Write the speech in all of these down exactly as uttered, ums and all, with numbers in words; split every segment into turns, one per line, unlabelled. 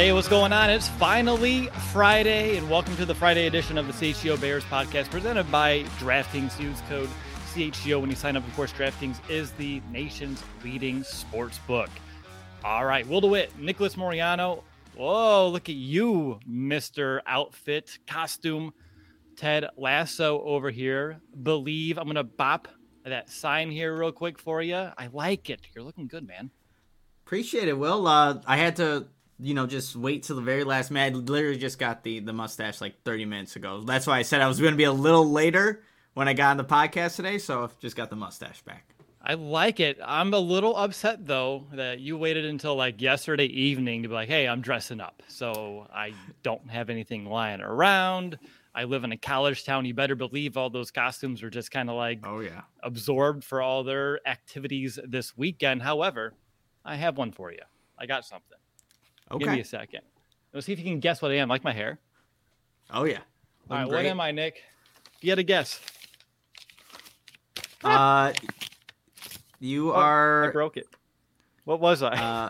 Hey, what's going on? It's finally Friday, and welcome to the Friday edition of the C H G O Bears podcast presented by DraftKings. Use code C H G O when you sign up. Of course, DraftKings is the nation's leading sports book. All right, Will DeWitt, Nicholas Moriano. Whoa, look at you, Mister Outfit Costume. Ted Lasso over here. Believe. I'm going to bop that sign here real quick for you. I like it. You're looking good, man.
Appreciate it, Will. Uh, I had to, you know, just wait till the very last minute. I literally just got the, the mustache like thirty minutes ago. That's why I said I was going to be a little later when I got on the podcast today, so I've just got the mustache back.
I like it. I'm a little upset, though, that you waited until like yesterday evening to be like, hey, I'm dressing up. So I don't have anything lying around. I live in a college town. You better believe all those costumes are just kind of like
oh yeah
absorbed for all their activities this weekend. However, I have one for you. I got something.
Okay.
Give me a second. Let's see if you can guess what I am. Like my hair.
Oh, yeah.
All right, what am I, Nick? If you had a guess.
Uh, you
oh,
are...
I broke it. What was I?
Uh,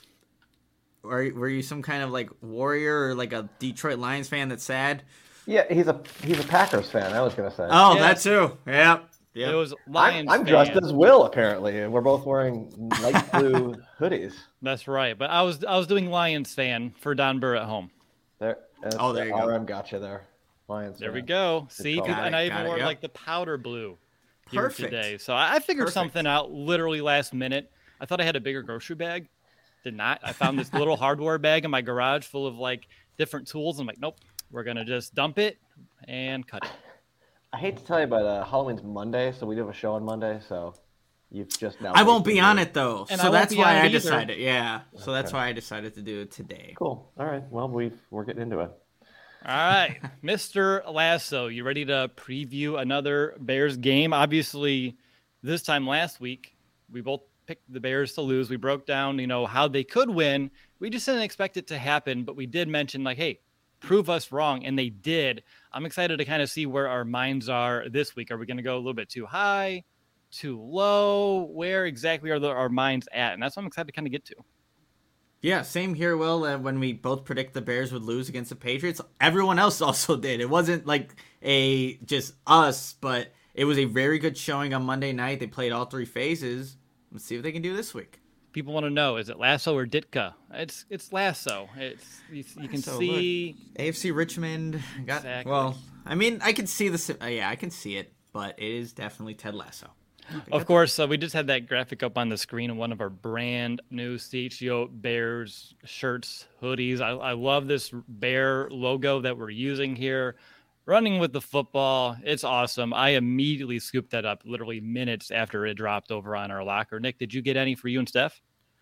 were, were you some kind of, like, warrior or, like, a Detroit Lions fan that's sad?
Yeah, he's a he's a Packers fan, I was going to say.
Oh,
yeah.
that too. Yeah. Yep.
It was Lions
I'm, I'm
fan.
dressed as Will, apparently, and we're both wearing light blue hoodies.
That's right. But I was I was doing Lions fan for Don Burr at home.
There,
oh, there you go.
R M got you there. Lions
There
fan.
we go.
Good
See,
call.
and I
Got
even
it,
wore
yep.
like the powder blue here
Perfect.
today. So I I figured
Perfect.
something out literally last minute. I thought I had a bigger grocery bag. Did not. I found this little hardware bag in my garage full of like different tools. I'm like, nope, we're going to just dump it and cut it.
I hate to tell you, but uh, Halloween's Monday, so we do have a show on Monday, so you've just now...
I won't be on it, though.
And
so
I won't
that's
be
why
on it
I
either.
decided. Yeah. So that's
Okay.
why I decided to do it today.
Cool. All right. Well, we've, we're getting into it.
All right, Mister Lasso, you ready to preview another Bears game? Obviously, this time last week, we both picked the Bears to lose. We broke down, you know, how they could win. We just didn't expect it to happen, but we did mention, like, hey, prove us wrong, and they did. I'm excited to kind of see where our minds are this week. Are we going to go a little bit too high, too low? Where exactly are the, our minds at? And that's what I'm excited to kind of get to.
Yeah, same here, Will. Uh, when we both predict the Bears would lose against the Patriots, everyone else also did. It wasn't like a just us, but it was a very good showing on Monday night. They played all three phases. Let's see what they can do this week.
People want to know, is it Lasso or Ditka? It's it's Lasso. It's you, you can
So,
see
look, A F C Richmond got
Exactly.
well. I mean, I can see the uh, yeah, I can see it, but it is definitely Ted Lasso.
Of course, uh, we just had that graphic up on the screen of one of our brand new C H G O Bears shirts, hoodies. I, I love this Bear logo that we're using here. Running with the football, it's awesome. I immediately scooped that up literally minutes after it dropped over on our locker. Nick, did you get any for you and Steph?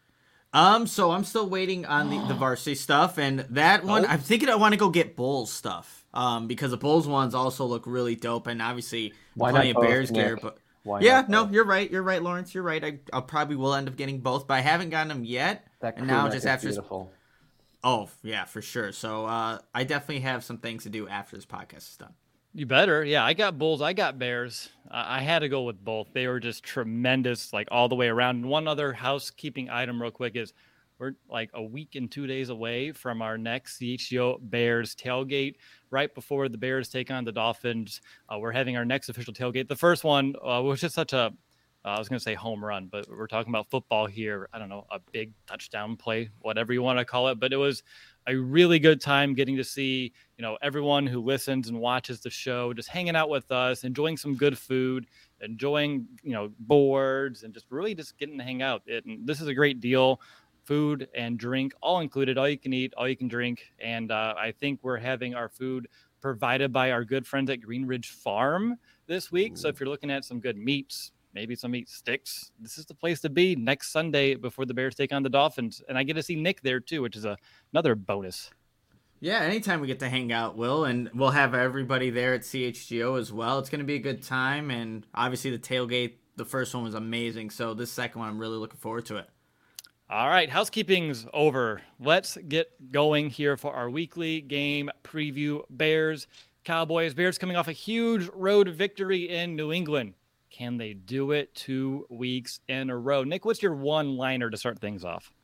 Um, so I'm still waiting on the, the varsity stuff, and that one,
Oh.
I'm thinking I want to go get Bulls stuff. Um, because the Bulls ones also look really dope, and obviously
Why
plenty
not
of
both,
Bears gear.
Nick?
But
Why
yeah,
not
no,
both?
you're right. You're right, Lawrence. You're right. I I probably will end up getting both, but I haven't gotten them yet.
That
and
crew
now
neck
just
is
after.
beautiful.
Oh yeah, for sure. So uh, I definitely have some things to do after this podcast is done.
You better. Yeah, I got Bulls. I got Bears. Uh, I had to go with both. They were just tremendous, like all the way around. And one other housekeeping item real quick is we're like a week and two days away from our next C H G O Bears tailgate. Right before the Bears take on the Dolphins, uh, we're having our next official tailgate. The first one uh, was just such a, uh, I was going to say home run, but we're talking about football here. I don't know, a big touchdown play, whatever you want to call it. But it was a really good time getting to see, you know, everyone who listens and watches the show, just hanging out with us, enjoying some good food, enjoying, you know, boards, and just really just getting to hang out. It, and this is a great deal. Food and drink all included, all you can eat, all you can drink. And uh, I think we're having our food provided by our good friends at Green Ridge Farm this week. So if you're looking at some good meats, maybe some meat sticks, this is the place to be next Sunday before the Bears take on the Dolphins. And I get to see Nick there too, which is a, another bonus.
Yeah, anytime we get to hang out, Will, and we'll have everybody there at C H G O as well. It's going to be a good time, and obviously the tailgate, the first one was amazing, so this second one, I'm really looking forward to it.
All right, housekeeping's over. Let's get going here for our weekly game preview. Bears, Cowboys. Bears coming off a huge road victory in New England. Can they do it two weeks in a row? Nick, what's your one-liner to start things off?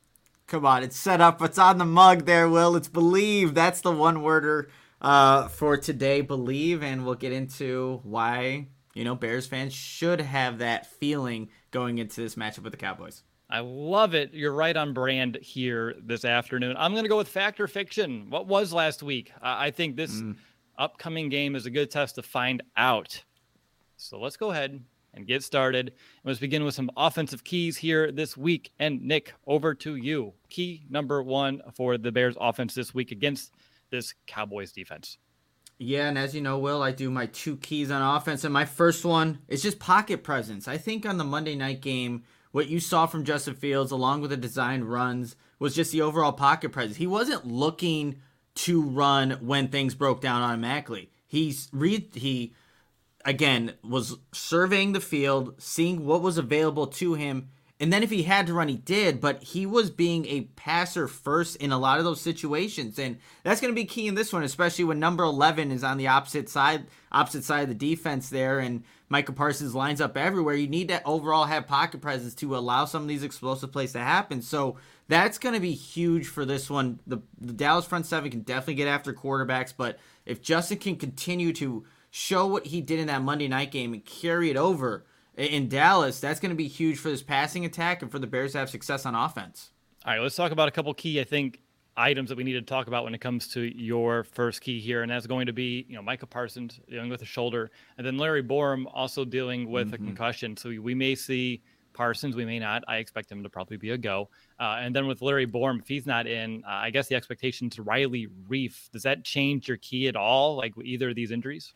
Come on, it's set up. It's on the mug there, Will. It's Believe. That's the one-worder uh, for today, Believe. And we'll get into why, you know, Bears fans should have that feeling going into this matchup with the Cowboys.
I love it. You're right on brand here this afternoon. I'm going to go with Fact or Fiction. What was last week? I think this mm. upcoming game is a good test to find out. So let's go ahead and get started. Let's begin with some offensive keys here this week. And Nick, over to you. Key number one for the Bears offense this week against this Cowboys defense.
Yeah, and as you know, Will, I do my two keys on offense. And my first one is just pocket presence. I think on the Monday night game, what you saw from Justin Fields, along with the designed runs, was just the overall pocket presence. He wasn't looking to run when things broke down automatically. He's re- he, again, was surveying the field, seeing what was available to him, and then if he had to run, he did, but he was being a passer first in a lot of those situations, and that's going to be key in this one, especially when number eleven is on the opposite side, opposite side of the defense there, and Micah Parsons lines up everywhere. You need to overall have pocket presence to allow some of these explosive plays to happen. So that's going to be huge for this one. The, the Dallas front seven can definitely get after quarterbacks, but if Justin can continue to show what he did in that Monday night game and carry it over in Dallas, that's going to be huge for this passing attack and for the Bears to have success on offense.
All right, let's talk about a couple key, I think, items that we need to talk about when it comes to your first key here, and that's going to be, you know, Micah Parsons dealing with a shoulder, and then Larry Borom also dealing with mm-hmm. a concussion. So we may see Parsons, we may not. I expect him to probably be a go. Uh, and then with Larry Borom, if he's not in, uh, I guess the expectation is Riley Reiff. Does that change your key at all, like with either of these injuries?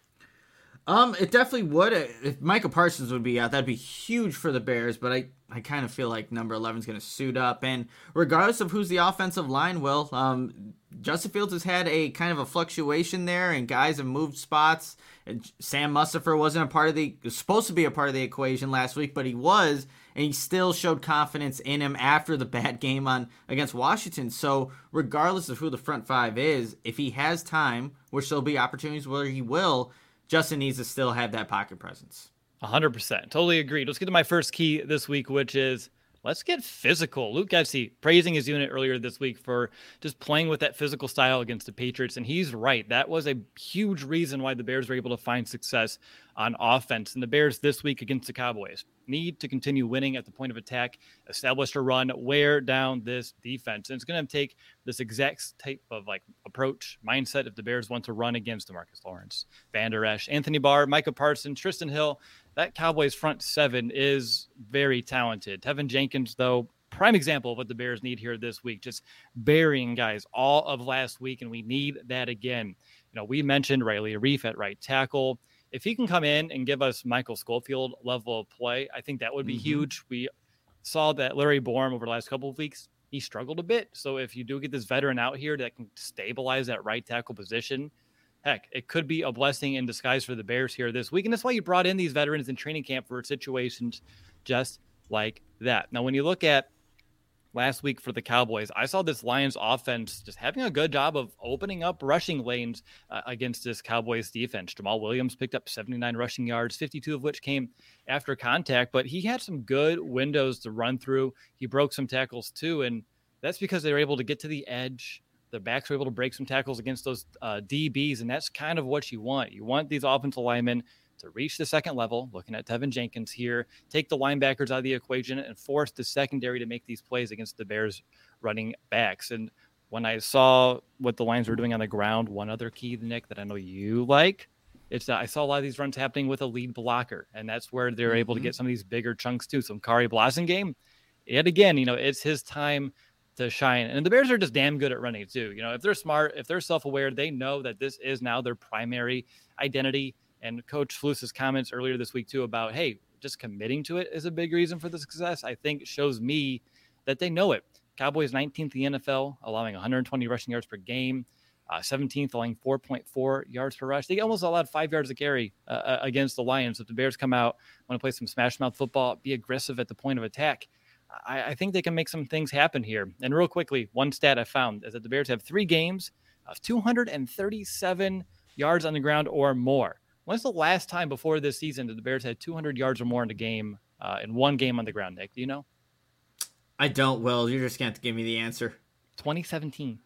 Um, it definitely would. If Micah Parsons would be out, that'd be huge for the Bears, but I, I kind of feel like number eleven is going to suit up. And regardless of who's the offensive line, Will, um, Justin Fields has had a kind of a fluctuation there, and guys have moved spots. And Sam Mustipher wasn't a part of the, was supposed to be a part of the equation last week, but he was, and he still showed confidence in him after the bad game on against Washington. So regardless of who the front five is, if he has time, which there'll be opportunities where he will, Justin needs to still have that pocket presence.
one hundred percent. Totally agreed. Let's get to my first key this week, which is let's get physical. Luke Getsy praising his unit earlier this week for just playing with that physical style against the Patriots, and he's right. That was a huge reason why the Bears were able to find success on offense. And the Bears this week against the Cowboys need to continue winning at the point of attack, establish a run, wear down this defense. And it's going to take this exact type of like approach, mindset if the Bears want to run against DeMarcus Lawrence, Van Der Esch, Anthony Barr, Micah Parsons, Tristan Hill. That Cowboys front seven is very talented. Tevin Jenkins, though, prime example of what the Bears need here this week, just burying guys all of last week, and we need that again. You know, we mentioned Riley Reiff at right tackle. If he can come in and give us Michael Schofield level of play, I think that would be mm-hmm. huge. We saw that Larry Borom over the last couple of weeks, he struggled a bit. So if you do get this veteran out here that can stabilize that right tackle position, heck, it could be a blessing in disguise for the Bears here this week. And that's why you brought in these veterans in training camp for situations just like that. Now, when you look at last week for the Cowboys, I saw this Lions offense just having a good job of opening up rushing lanes uh, against this Cowboys defense. Jamal Williams picked up seventy-nine rushing yards, fifty-two of which came after contact, but he had some good windows to run through. He broke some tackles too, and that's because they were able to get to the edge. The backs were able to break some tackles against those uh, D Bs, and that's kind of what you want. You want these offensive linemen to reach the second level, looking at Tevin Jenkins here, take the linebackers out of the equation and force the secondary to make these plays against the Bears running backs. And when I saw what the Lions were doing on the ground, one other key, Nick, that I know you like, it's that I saw a lot of these runs happening with a lead blocker, and that's where they're mm-hmm. able to get some of these bigger chunks too. So Kari Blasingame, yet again, you know, it's his time to shine. And the Bears are just damn good at running too. You know, if they're smart, if they're self-aware, they know that this is now their primary identity. And Coach Flus's comments earlier this week too about, hey, just committing to it is a big reason for the success, I think shows me that they know it. Cowboys nineteenth in the N F L, allowing one hundred twenty rushing yards per game, uh, seventeenth, allowing four point four yards per rush. They almost allowed five yards a carry uh, against the Lions. If the Bears come out, want to play some smash mouth football, be aggressive at the point of attack, I, I think they can make some things happen here. And real quickly, one stat I found is that the Bears have three games of two hundred thirty-seven yards on the ground or more. When's the last time before this season that the Bears had two hundred yards or more in a game, uh, in one game on the ground, Nick? Do you know?
I don't, Will. You're just going to have to give me the answer.
twenty seventeen.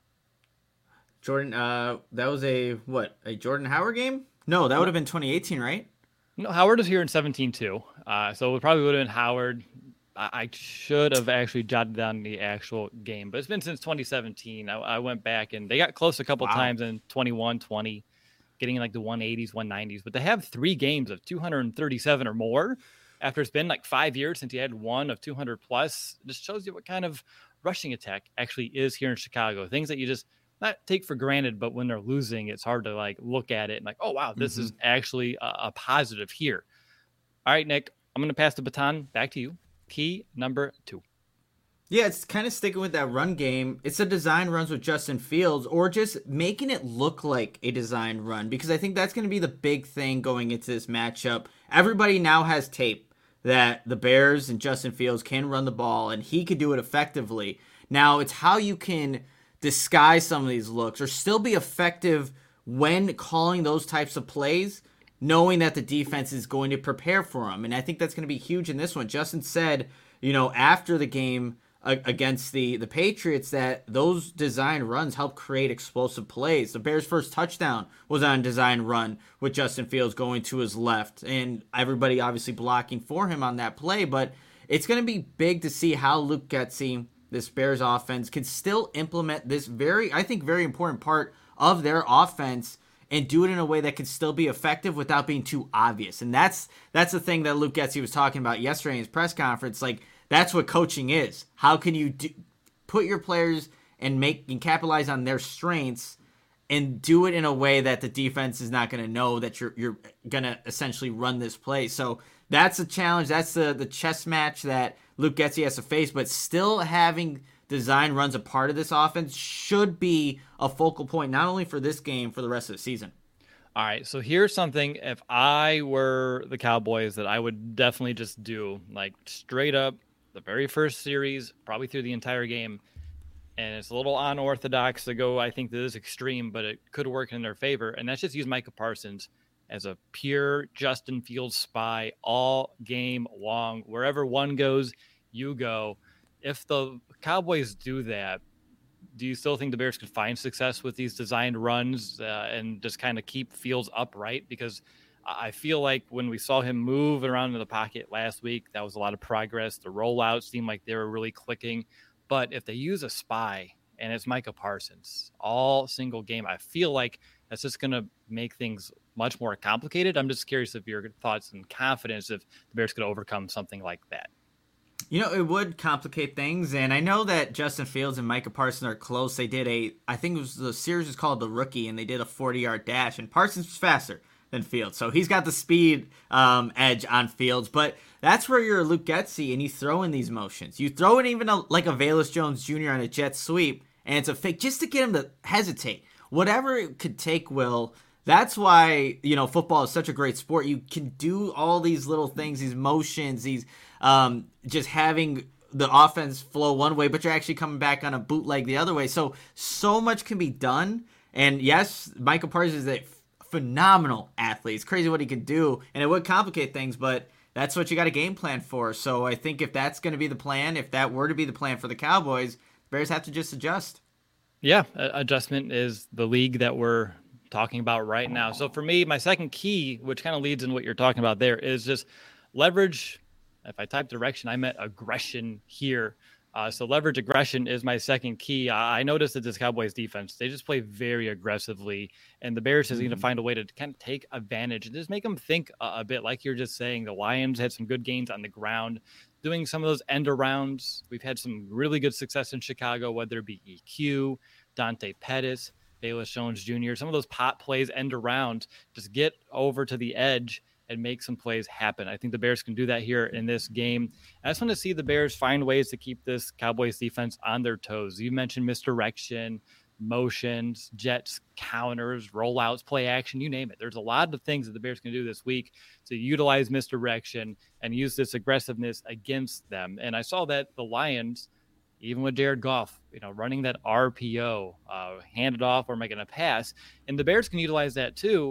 Jordan, uh, that was a, what, a Jordan Howard game? No, that would have been twenty eighteen, right?
No, Howard was here in seventeen too. Uh, so it probably would have been Howard. I, I should have actually jotted down the actual game, but it's been since twenty seventeen. I, I went back and they got close a couple
Wow.
times in twenty-one, twenty, getting in like the one eighties, one nineties, but they have three games of two hundred thirty-seven or more after it's been like five years since you had one of two hundred plus. It just shows you what kind of rushing attack actually is here in Chicago. Things that you just not take for granted, but when they're losing, it's hard to like look at it and like, oh, wow, this mm-hmm. is actually a, a positive here. All right, Nick, I'm going to pass the baton back to you. Key number two.
Yeah, it's kind of sticking with that run game. It's a design runs with Justin Fields or just making it look like a designed run, because I think that's going to be the big thing going into this matchup. Everybody now has tape that the Bears and Justin Fields can run the ball and he could do it effectively. Now, it's how you can disguise some of these looks or still be effective when calling those types of plays, knowing that the defense is going to prepare for them. And I think that's going to be huge in this one. Justin said, you know, after the game uh, against the, the Patriots, that those design runs help create explosive plays. The Bears' first touchdown was on a design run with Justin Fields going to his left, and everybody obviously blocking for him on that play. But it's going to be big to see how Luke Getsy, this Bears offense, can still implement this very, I think, very important part of their offense and do it in a way that can still be effective without being too obvious. And that's that's the thing that Luke Getsy was talking about yesterday in his press conference. Like, that's what coaching is. How can you do, put your players and make and capitalize on their strengths and do it in a way that the defense is not going to know that you're you're going to essentially run this play. So that's a challenge. That's the, the chess match that Luke Getsy has to face, but still having design runs a part of this offense should be a focal point, not only for this game, for the rest of the season.
All right, so here's something, if I were the Cowboys, that I would definitely just do, like straight up the very first series, probably through the entire game. And it's a little unorthodox to go, I think, to this extreme, but it could work in their favor. And that's just use Micah Parsons as a pure Justin Fields spy all game long. Wherever one goes, you go. If the Cowboys do that, do you still think the Bears could find success with these designed runs uh, and just kind of keep Fields upright? Because I feel like when we saw him move around in the pocket last week, that was a lot of progress. The rollouts seemed like they were really clicking. But if they use a spy and it's Micah Parsons all single game, I feel like that's just going to make things much more complicated. I'm just curious of your thoughts and confidence if the Bears could overcome something like that.
You know, it would complicate things, and I know that Justin Fields and Micah Parsons are close. They did a, I think it was the series was called The Rookie, and they did a forty-yard dash, and Parsons was faster than Fields, so he's got the speed um, edge on Fields. But that's where you're Luke Getsy, and you throw in these motions. You throw in even a, like a Velus Jones Junior on a jet sweep, and it's a fake just to get him to hesitate. Whatever it could take, Will. That's why, you know, football is such a great sport. You can do all these little things, these motions, these um, just having the offense flow one way, but you're actually coming back on a bootleg the other way. So, so much can be done. And yes, Michael Parsons is a f- phenomenal athlete. It's crazy what he can do, and it would complicate things, but that's what you got a game plan for. So I think if that's going to be the plan, if that were to be the plan for the Cowboys, Bears have to just adjust.
Yeah, adjustment is the league that we're talking about right now. So for me, my second key, which kind of leads in what you're talking about there, is just leverage. If I type direction, I meant aggression here. Uh, so leverage aggression is my second key. I, I noticed that this Cowboys defense, they just play very aggressively, and the Bears just mm-hmm. need to find a way to kind of take advantage and just make them think a, a bit. Like you're just saying, the Lions had some good gains on the ground, doing some of those end arounds. We've had some really good success in Chicago, whether it be E Q, Dante Pettis, Velus Jones Junior Some of those pop plays, end around, just get over to the edge and make some plays happen. I think the Bears can do that here in this game. I just want to see the Bears find ways to keep this Cowboys defense on their toes. You mentioned misdirection, motions, jets, counters, rollouts, play action, you name it. There's a lot of things that the Bears can do this week to utilize misdirection and use this aggressiveness against them. And I saw that the Lions, even with Jared Goff, you know, running that R P O, uh, hand it off or making a pass, and the Bears can utilize that too.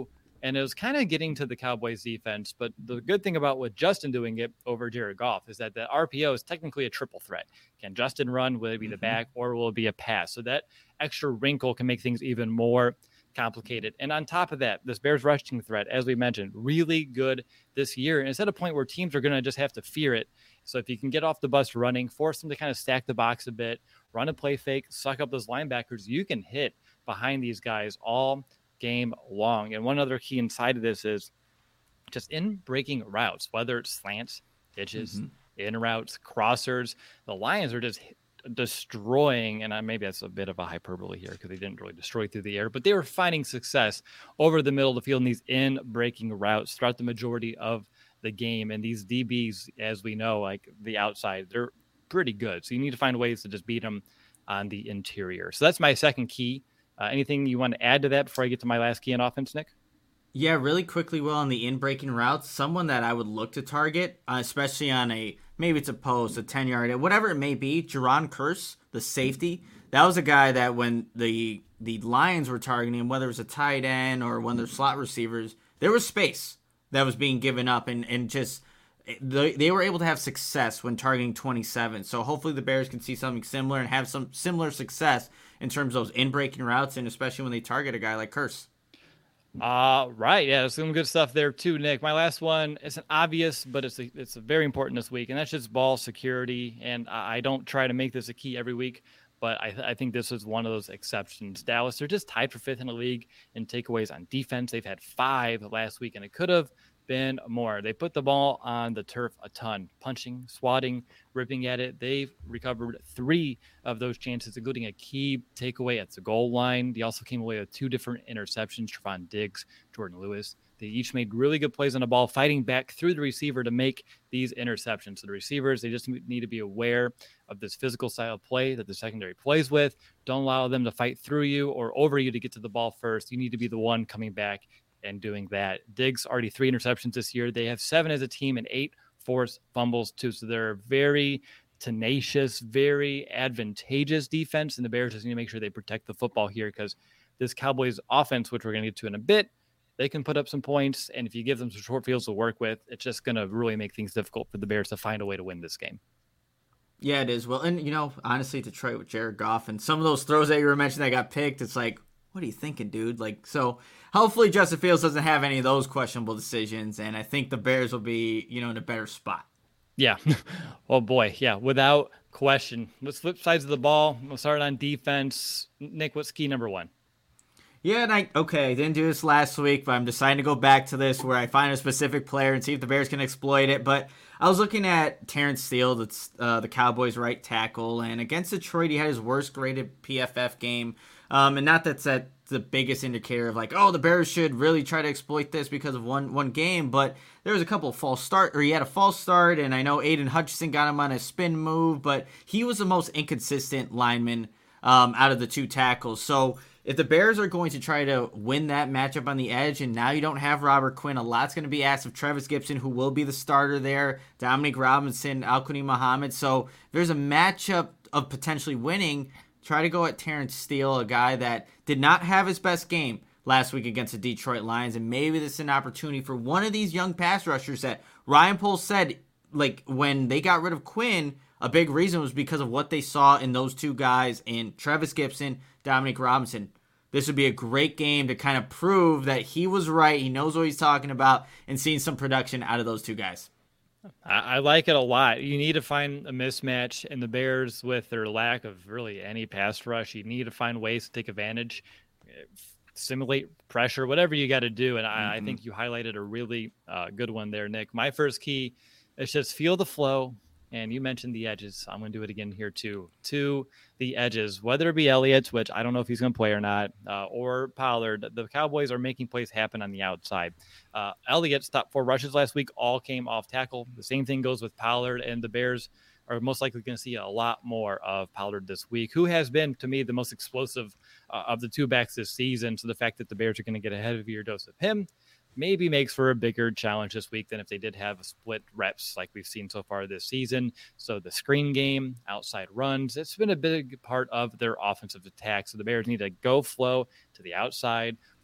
And it was kind of getting to the Cowboys defense. But the good thing about with Justin doing it over Jared Goff is that the R P O is technically a triple threat. Can Justin run? Will it be the mm-hmm. back or will it be a pass? So that extra wrinkle can make things even more complicated. And on top of that, this Bears rushing threat, as we mentioned, really good this year. And it's at a point where teams are going to just have to fear it. So if you can get off the bus running, force them to kind of stack the box a bit, run a play fake, suck up those linebackers, you can hit behind these guys all game long. And one other key inside of this is just in breaking routes, whether it's slants, ditches, mm-hmm. in routes, crossers, the Lions are just destroying, and I, maybe that's a bit of a hyperbole here because they didn't really destroy through the air, but they were finding success over the middle of the field in these in breaking routes throughout the majority of the game. And these D Bs, as we know, like the outside, they're pretty good. So you need to find ways to just beat them on the interior. So that's my second key. Uh, anything you want to add to that before I get to my last key on offense, Nick?
Yeah, really quickly, Will, on the in-breaking routes, someone that I would look to target, uh, especially on a, maybe it's a post, a ten-yard, whatever it may be, Jerron Kearse, the safety, that was a guy that when the the Lions were targeting him, whether it was a tight end or one of their slot receivers, there was space that was being given up, and, and just they, they were able to have success when targeting twenty-seven. So hopefully the Bears can see something similar and have some similar success in terms of those in-breaking routes, and especially when they target a guy like Kearse.
Uh, right. Yeah, some good stuff there too, Nick. My last one isn't obvious, but it's a, it's a very important this week, and that's just ball security. And I don't try to make this a key every week, but I, th- I think this is one of those exceptions. Dallas, they're just tied for fifth in the league in takeaways on defense. They've had five last week, and it could have been more. They put the ball on the turf a ton, punching, swatting, ripping at it. They've recovered three of those chances, including a key takeaway at the goal line. They also came away with two different interceptions, Trevon Diggs, Jordan Lewis. They each made really good plays on the ball, fighting back through the receiver to make these interceptions. So the receivers, they just need to be aware of this physical style of play that the secondary plays with. Don't allow them to fight through you or over you to get to the ball first. You need to be the one coming back and doing that. Diggs already three interceptions this year. They have seven as a team and eight forced fumbles too. So they're very tenacious, very advantageous defense. And the Bears just need to make sure they protect the football here because this Cowboys offense, which we're going to get to in a bit, they can put up some points. And if you give them some short fields to work with, it's just going to really make things difficult for the Bears to find a way to win this game.
Yeah, it is. Well, and you know, honestly, Detroit with Jared Goff and some of those throws that you were mentioning that got picked, it's like, what are you thinking, dude? Like, so hopefully Justin Fields doesn't have any of those questionable decisions, and I think the Bears will be, you know, in a better spot.
Yeah. Oh, boy. Yeah, without question. Let's flip sides of the ball. We'll start on defense. Nick, what's key number one?
Yeah, and I, okay, I didn't do this last week, but I'm deciding to go back to this where I find a specific player and see if the Bears can exploit it. But I was looking at Terrence Steele, that's uh, the Cowboys' right tackle, and against Detroit, he had his worst graded P F F game. Um, and not that's that the biggest indicator of like, oh, the Bears should really try to exploit this because of one one game. But there was a couple of false start, or he had a false start, and I know Aiden Hutchinson got him on a spin move, but he was the most inconsistent lineman um, out of the two tackles. So if the Bears are going to try to win that matchup on the edge, and now you don't have Robert Quinn, a lot's going to be asked of Travis Gibson, who will be the starter there, Dominic Robinson, Al-Quani Muhammad. So there's a matchup of potentially winning. Try to go at Terrence Steele, a guy that did not have his best game last week against the Detroit Lions, and maybe this is an opportunity for one of these young pass rushers that Ryan Poles said, like, when they got rid of Quinn, a big reason was because of what they saw in those two guys in Travis Gibson, Dominic Robinson. This would be a great game to kind of prove that he was right, he knows what he's talking about, and seeing some production out of those two guys.
I like it a lot. You need to find a mismatch, and the Bears, with their lack of really any pass rush, you need to find ways to take advantage, simulate pressure, whatever you got to do. And mm-hmm. I, I think you highlighted a really uh, good one there, Nick. My first key is just feel the flow. And you mentioned the edges. I'm going to do it again here too. To the edges, whether it be Elliott, which I don't know if he's going to play or not, uh, or Pollard, the Cowboys are making plays happen on the outside. Uh, Elliott's top four rushes last week all came off tackle. The same thing goes with Pollard, and the Bears are most likely going to see a lot more of Pollard this week, who has been, to me, the most explosive uh, of the two backs this season. So the fact that the Bears are going to get a heavier dose of him maybe makes for a bigger challenge this week than if they did have split reps like we've seen so far this season. So the screen game, outside runs, it's been a big part of their offensive attack. So the Bears need to go flow to the outside,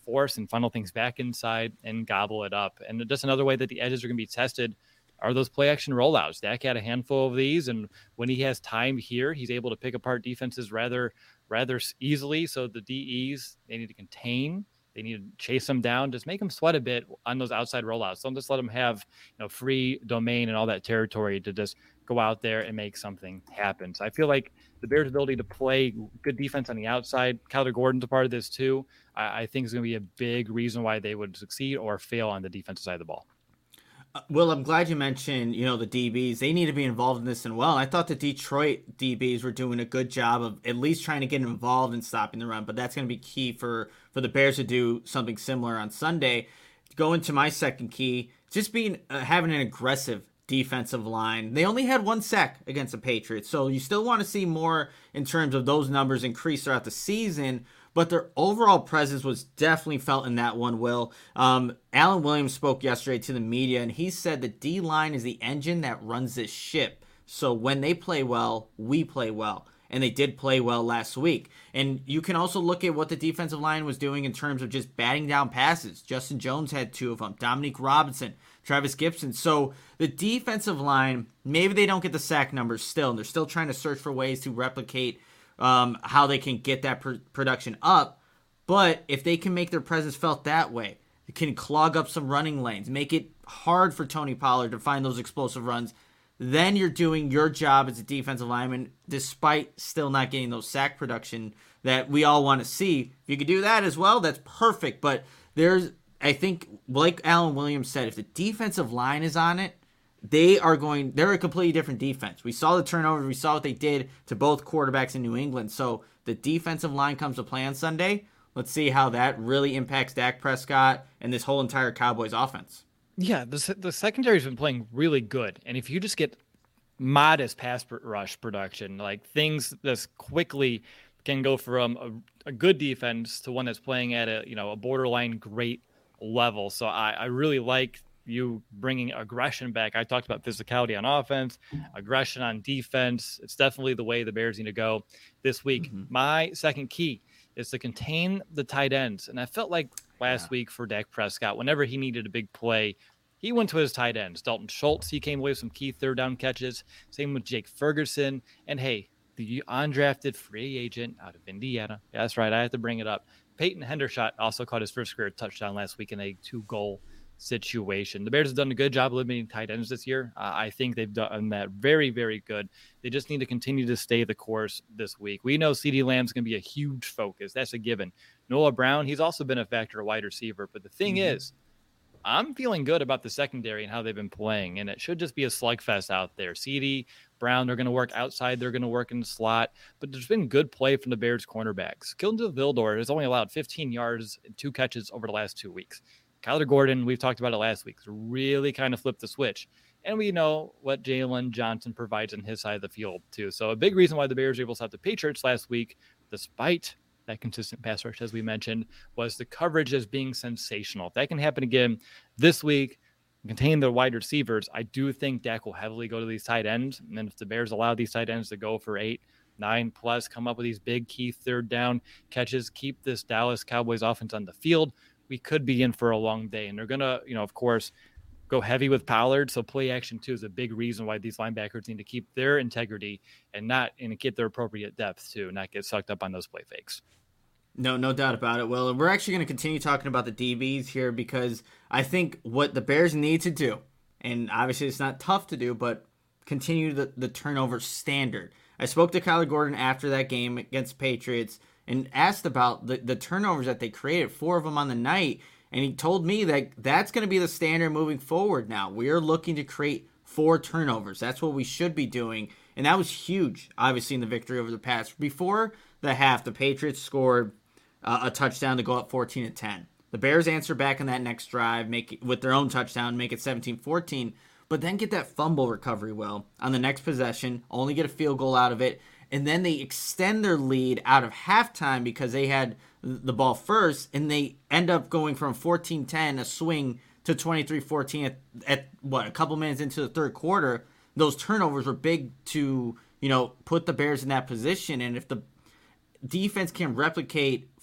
force and funnel things back inside and gobble it up. And just another way that the edges are going to be tested are those play action rollouts. Dak had a handful of these, and when he has time here, he's able to pick apart defenses rather rather easily. So the D Es, they need to contain. They need to chase them down. Just make them sweat a bit on those outside rollouts. Don't just let them have, you know, free domain and all that territory to just go out there and make something happen. So I feel like the Bears' ability to play good defense on the outside, Kyler Gordon's a part of this too, I, I think is going to be a big reason why they would succeed or fail on the defensive side of the ball.
Uh, Will, I'm glad you mentioned, you know, the D Bs. They need to be involved in this and well. I thought the Detroit D Bs were doing a good job of at least trying to get involved in stopping the run, but that's going to be key for, for the Bears to do something similar on Sunday. Going to my second key, just being uh, having an aggressive defensive line. They only had one sack against the Patriots, so you still want to see more in terms of those numbers increase throughout the season, but their overall presence was definitely felt in that one, Will. Um, Alan Williams spoke yesterday to the media, and he said the D-line is the engine that runs this ship. So when they play well, we play well. And they did play well last week. And you can also look at what the defensive line was doing in terms of just batting down passes. Justin Jones had two of them. Dominique Robinson, Travis Gibson. So the defensive line, maybe they don't get the sack numbers still. And they're still trying to search for ways to replicate um, how they can get that pr- production up. But if they can make their presence felt that way, it can clog up some running lanes, make it hard for Tony Pollard to find those explosive runs, then you're doing your job as a defensive lineman despite still not getting those sack production that we all want to see. If you could do that as well, that's perfect. But there's, I think, like Alan Williams said, if the defensive line is on it, they are going, they're a completely different defense. We saw the turnovers. We saw what they did to both quarterbacks in New England. So the defensive line comes to play on Sunday. Let's see how that really impacts Dak Prescott and this whole entire Cowboys offense.
Yeah, the the secondary's been playing really good, and if you just get modest pass rush production, like things this quickly can go from a, a good defense to one that's playing at a you know a borderline great level. So I, I really like you bringing aggression back. I talked about physicality on offense, aggression on defense. It's definitely the way the Bears need to go this week. Mm-hmm. My second key is to contain the tight ends, and I felt like last yeah. week for Dak Prescott, whenever he needed a big play, he went to his tight ends. Dalton Schultz, he came away with some key third down catches. Same with Jake Ferguson. And hey, the undrafted free agent out of Indiana. Yeah, that's right. I have to bring it up. Peyton Hendershot also caught his first career touchdown last week in a two-goal situation. The Bears have done a good job limiting tight ends this year. Uh, I think they've done that very, very good. They just need to continue to stay the course this week. We know CeeDee Lamb's going to be a huge focus. That's a given. Noah Brown, he's also been a factor, a wide receiver. But the thing mm-hmm. is, I'm feeling good about the secondary and how they've been playing, and it should just be a slugfest out there. CeeDee, Brown, they're going to work outside. They're going to work in the slot, but there's been good play from the Bears cornerbacks. Kindle Vildor has only allowed fifteen yards and two catches over the last two weeks. Kyler Gordon, we've talked about it last week, really kind of flipped the switch. And we know what Jalen Johnson provides on his side of the field, too. So a big reason why the Bears were able to stop the Patriots last week, despite that consistent pass rush, as we mentioned, was the coverage as being sensational. If that can happen again this week, contain the wide receivers, I do think Dak will heavily go to these tight ends. And then if the Bears allow these tight ends to go for eight, nine plus, come up with these big key third down catches, keep this Dallas Cowboys offense on the field, we could be in for a long day. And they're going to, you know, of course, go heavy with Pollard. So play action too is a big reason why these linebackers need to keep their integrity and not and get their appropriate depth too, not get sucked up on those play fakes.
No, no doubt about it. Well, we're actually going to continue talking about the D Bs here because I think what the Bears need to do, and obviously it's not tough to do, but continue the, the turnover standard. I spoke to Kyler Gordon after that game against the Patriots and asked about the, the turnovers that they created, four of them on the night, and he told me that that's going to be the standard moving forward now. We are looking to create four turnovers. That's what we should be doing, and that was huge, obviously, in the victory over the Pats. Before the half, the Patriots scored uh, a touchdown to go up fourteen to ten. The Bears answer back in that next drive make it, with their own touchdown, make it seventeen fourteen, but then get that fumble recovery, Will, on the next possession, only get a field goal out of it, and then they extend their lead out of halftime because they had the ball first, and they end up going from fourteen ten, a swing, to twenty-three fourteen at, at, what, a couple minutes into the third quarter. Those turnovers were big to, you know, put the Bears in that position, and if the defense can replicate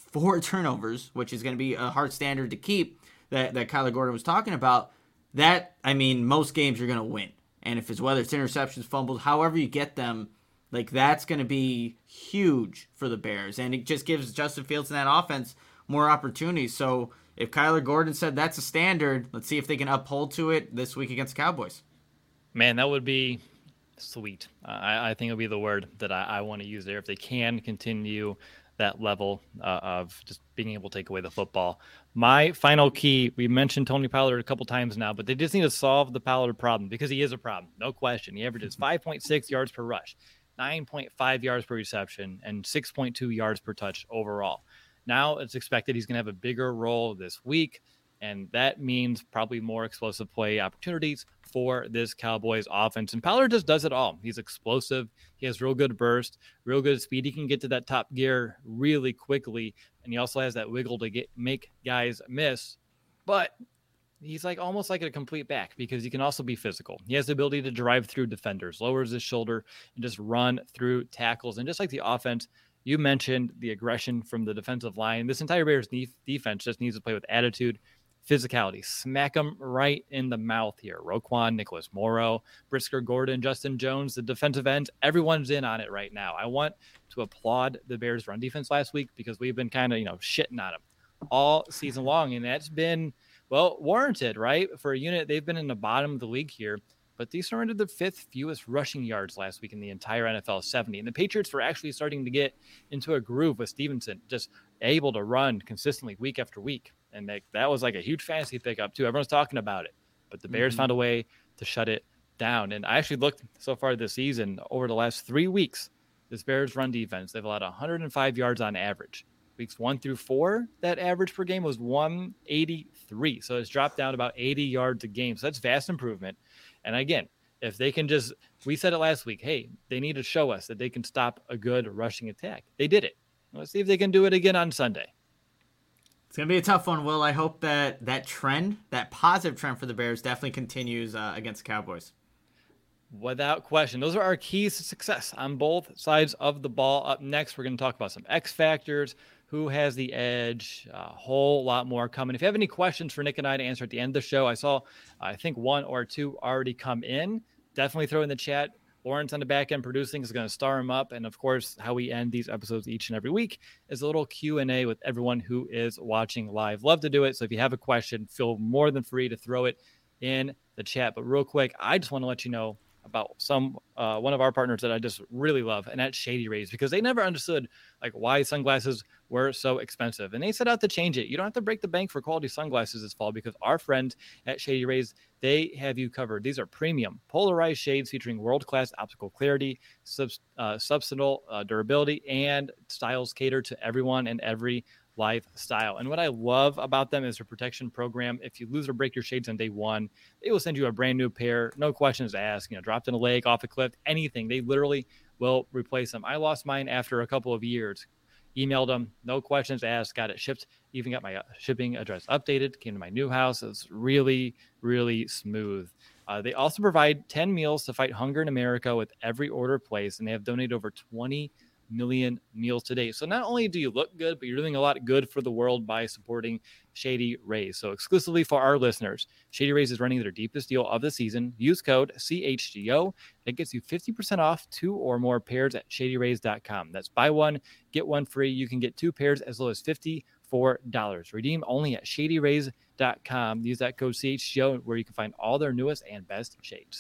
four turnovers, which is going to be a hard standard to keep that, that Kyler Gordon was talking about, that, I mean, most games you're going to win. And if it's whether it's interceptions, fumbles, however you get them, like that's going to be huge for the Bears. And it just gives Justin Fields and that offense more opportunities. So if Kyler Gordon said that's a standard, let's see if they can uphold to it this week against the Cowboys.
Man, that would be sweet. Uh, I, I think it would be the word that I, I want to use there. If they can continue that level uh, of just being able to take away the football. My final key, we mentioned Tony Pollard a couple times now, but they just need to solve the Pollard problem because he is a problem. No question. He averages five point six yards per rush, nine point five yards per reception, and six point two yards per touch overall. Now it's expected he's going to have a bigger role this week, and that means probably more explosive play opportunities for this Cowboys offense. And Pollard just does it all. He's explosive. He has real good burst, real good speed. He can get to that top gear really quickly, and he also has that wiggle to get make guys miss. But he's like almost like a complete back because he can also be physical. He has the ability to drive through defenders, lowers his shoulder, and just run through tackles. And just like the offense, you mentioned the aggression from the defensive line. This entire Bears defense just needs to play with attitude, physicality. Smack them right in the mouth here. Roquan, Nicholas Morrow, Brisker Gordon, Justin Jones, the defensive ends, everyone's in on it right now. I want to applaud the Bears run defense last week because we've been kind of, you know, shitting on them all season long. And that's been, well, warranted, right? For a unit, they've been in the bottom of the league here, but they surrendered the fifth fewest rushing yards last week in the entire N F L, seventy. And the Patriots were actually starting to get into a groove with Stevenson, just able to run consistently week after week. And they, that was like a huge fantasy pickup too. Everyone's talking about it, but the Bears mm-hmm. found a way to shut it down. And I actually looked so far this season over the last three weeks, this Bears run defense, they've allowed one hundred five yards on average. Weeks one through four, that average per game was one eighty-three. So it's dropped down about eighty yards a game. So that's vast improvement. And again, if they can just, we said it last week, hey, they need to show us that they can stop a good rushing attack. They did it. Let's see if they can do it again on Sunday.
It's going to be a tough one, Will. I hope that that trend, that positive trend for the Bears definitely continues uh, against the Cowboys.
Without question. Those are our keys to success on both sides of the ball. Up next, we're going to talk about some X factors, who has the edge, a whole lot more coming. If you have any questions for Nick and I to answer at the end of the show, I saw, I think, one or two already come in. Definitely throw in the chat. Lawrence on the back end producing is going to star him up. And, of course, how we end these episodes each and every week is a little Q and A with everyone who is watching live. Love to do it. So if you have a question, feel more than free to throw it in the chat. But real quick, I just want to let you know about some uh, one of our partners that I just really love, and that's Shady Rays, because they never understood like why sunglasses were so expensive, and they set out to change it. You don't have to break the bank for quality sunglasses this fall because our friends at Shady Rays, they have you covered. These are premium polarized shades featuring world-class optical clarity, sub, uh, substantial uh, durability, and styles cater to everyone and every lifestyle. And what I love about them is their protection program. If you lose or break your shades on day one, they will send you a brand new pair, no questions asked. You know, dropped in a lake, off a cliff, anything. They literally will replace them. I lost mine after a couple of years. Emailed them, no questions asked, got it shipped, even got my shipping address updated, came to my new house. It's really, really smooth. Uh, they also provide ten meals to fight hunger in America with every order placed, and they have donated over twenty million meals today. So not only do you look good, but you're doing a lot of good for the world by supporting Shady Rays. So exclusively for our listeners, Shady Rays is running their deepest deal of the season. Use code C H G O. It gets you fifty percent off two or more pairs at shady rays dot com. That's buy one, get one free. You can get two pairs as low as fifty-four dollars. Redeem only at shady rays dot com. Use that code C H G O where you can find all their newest and best shades.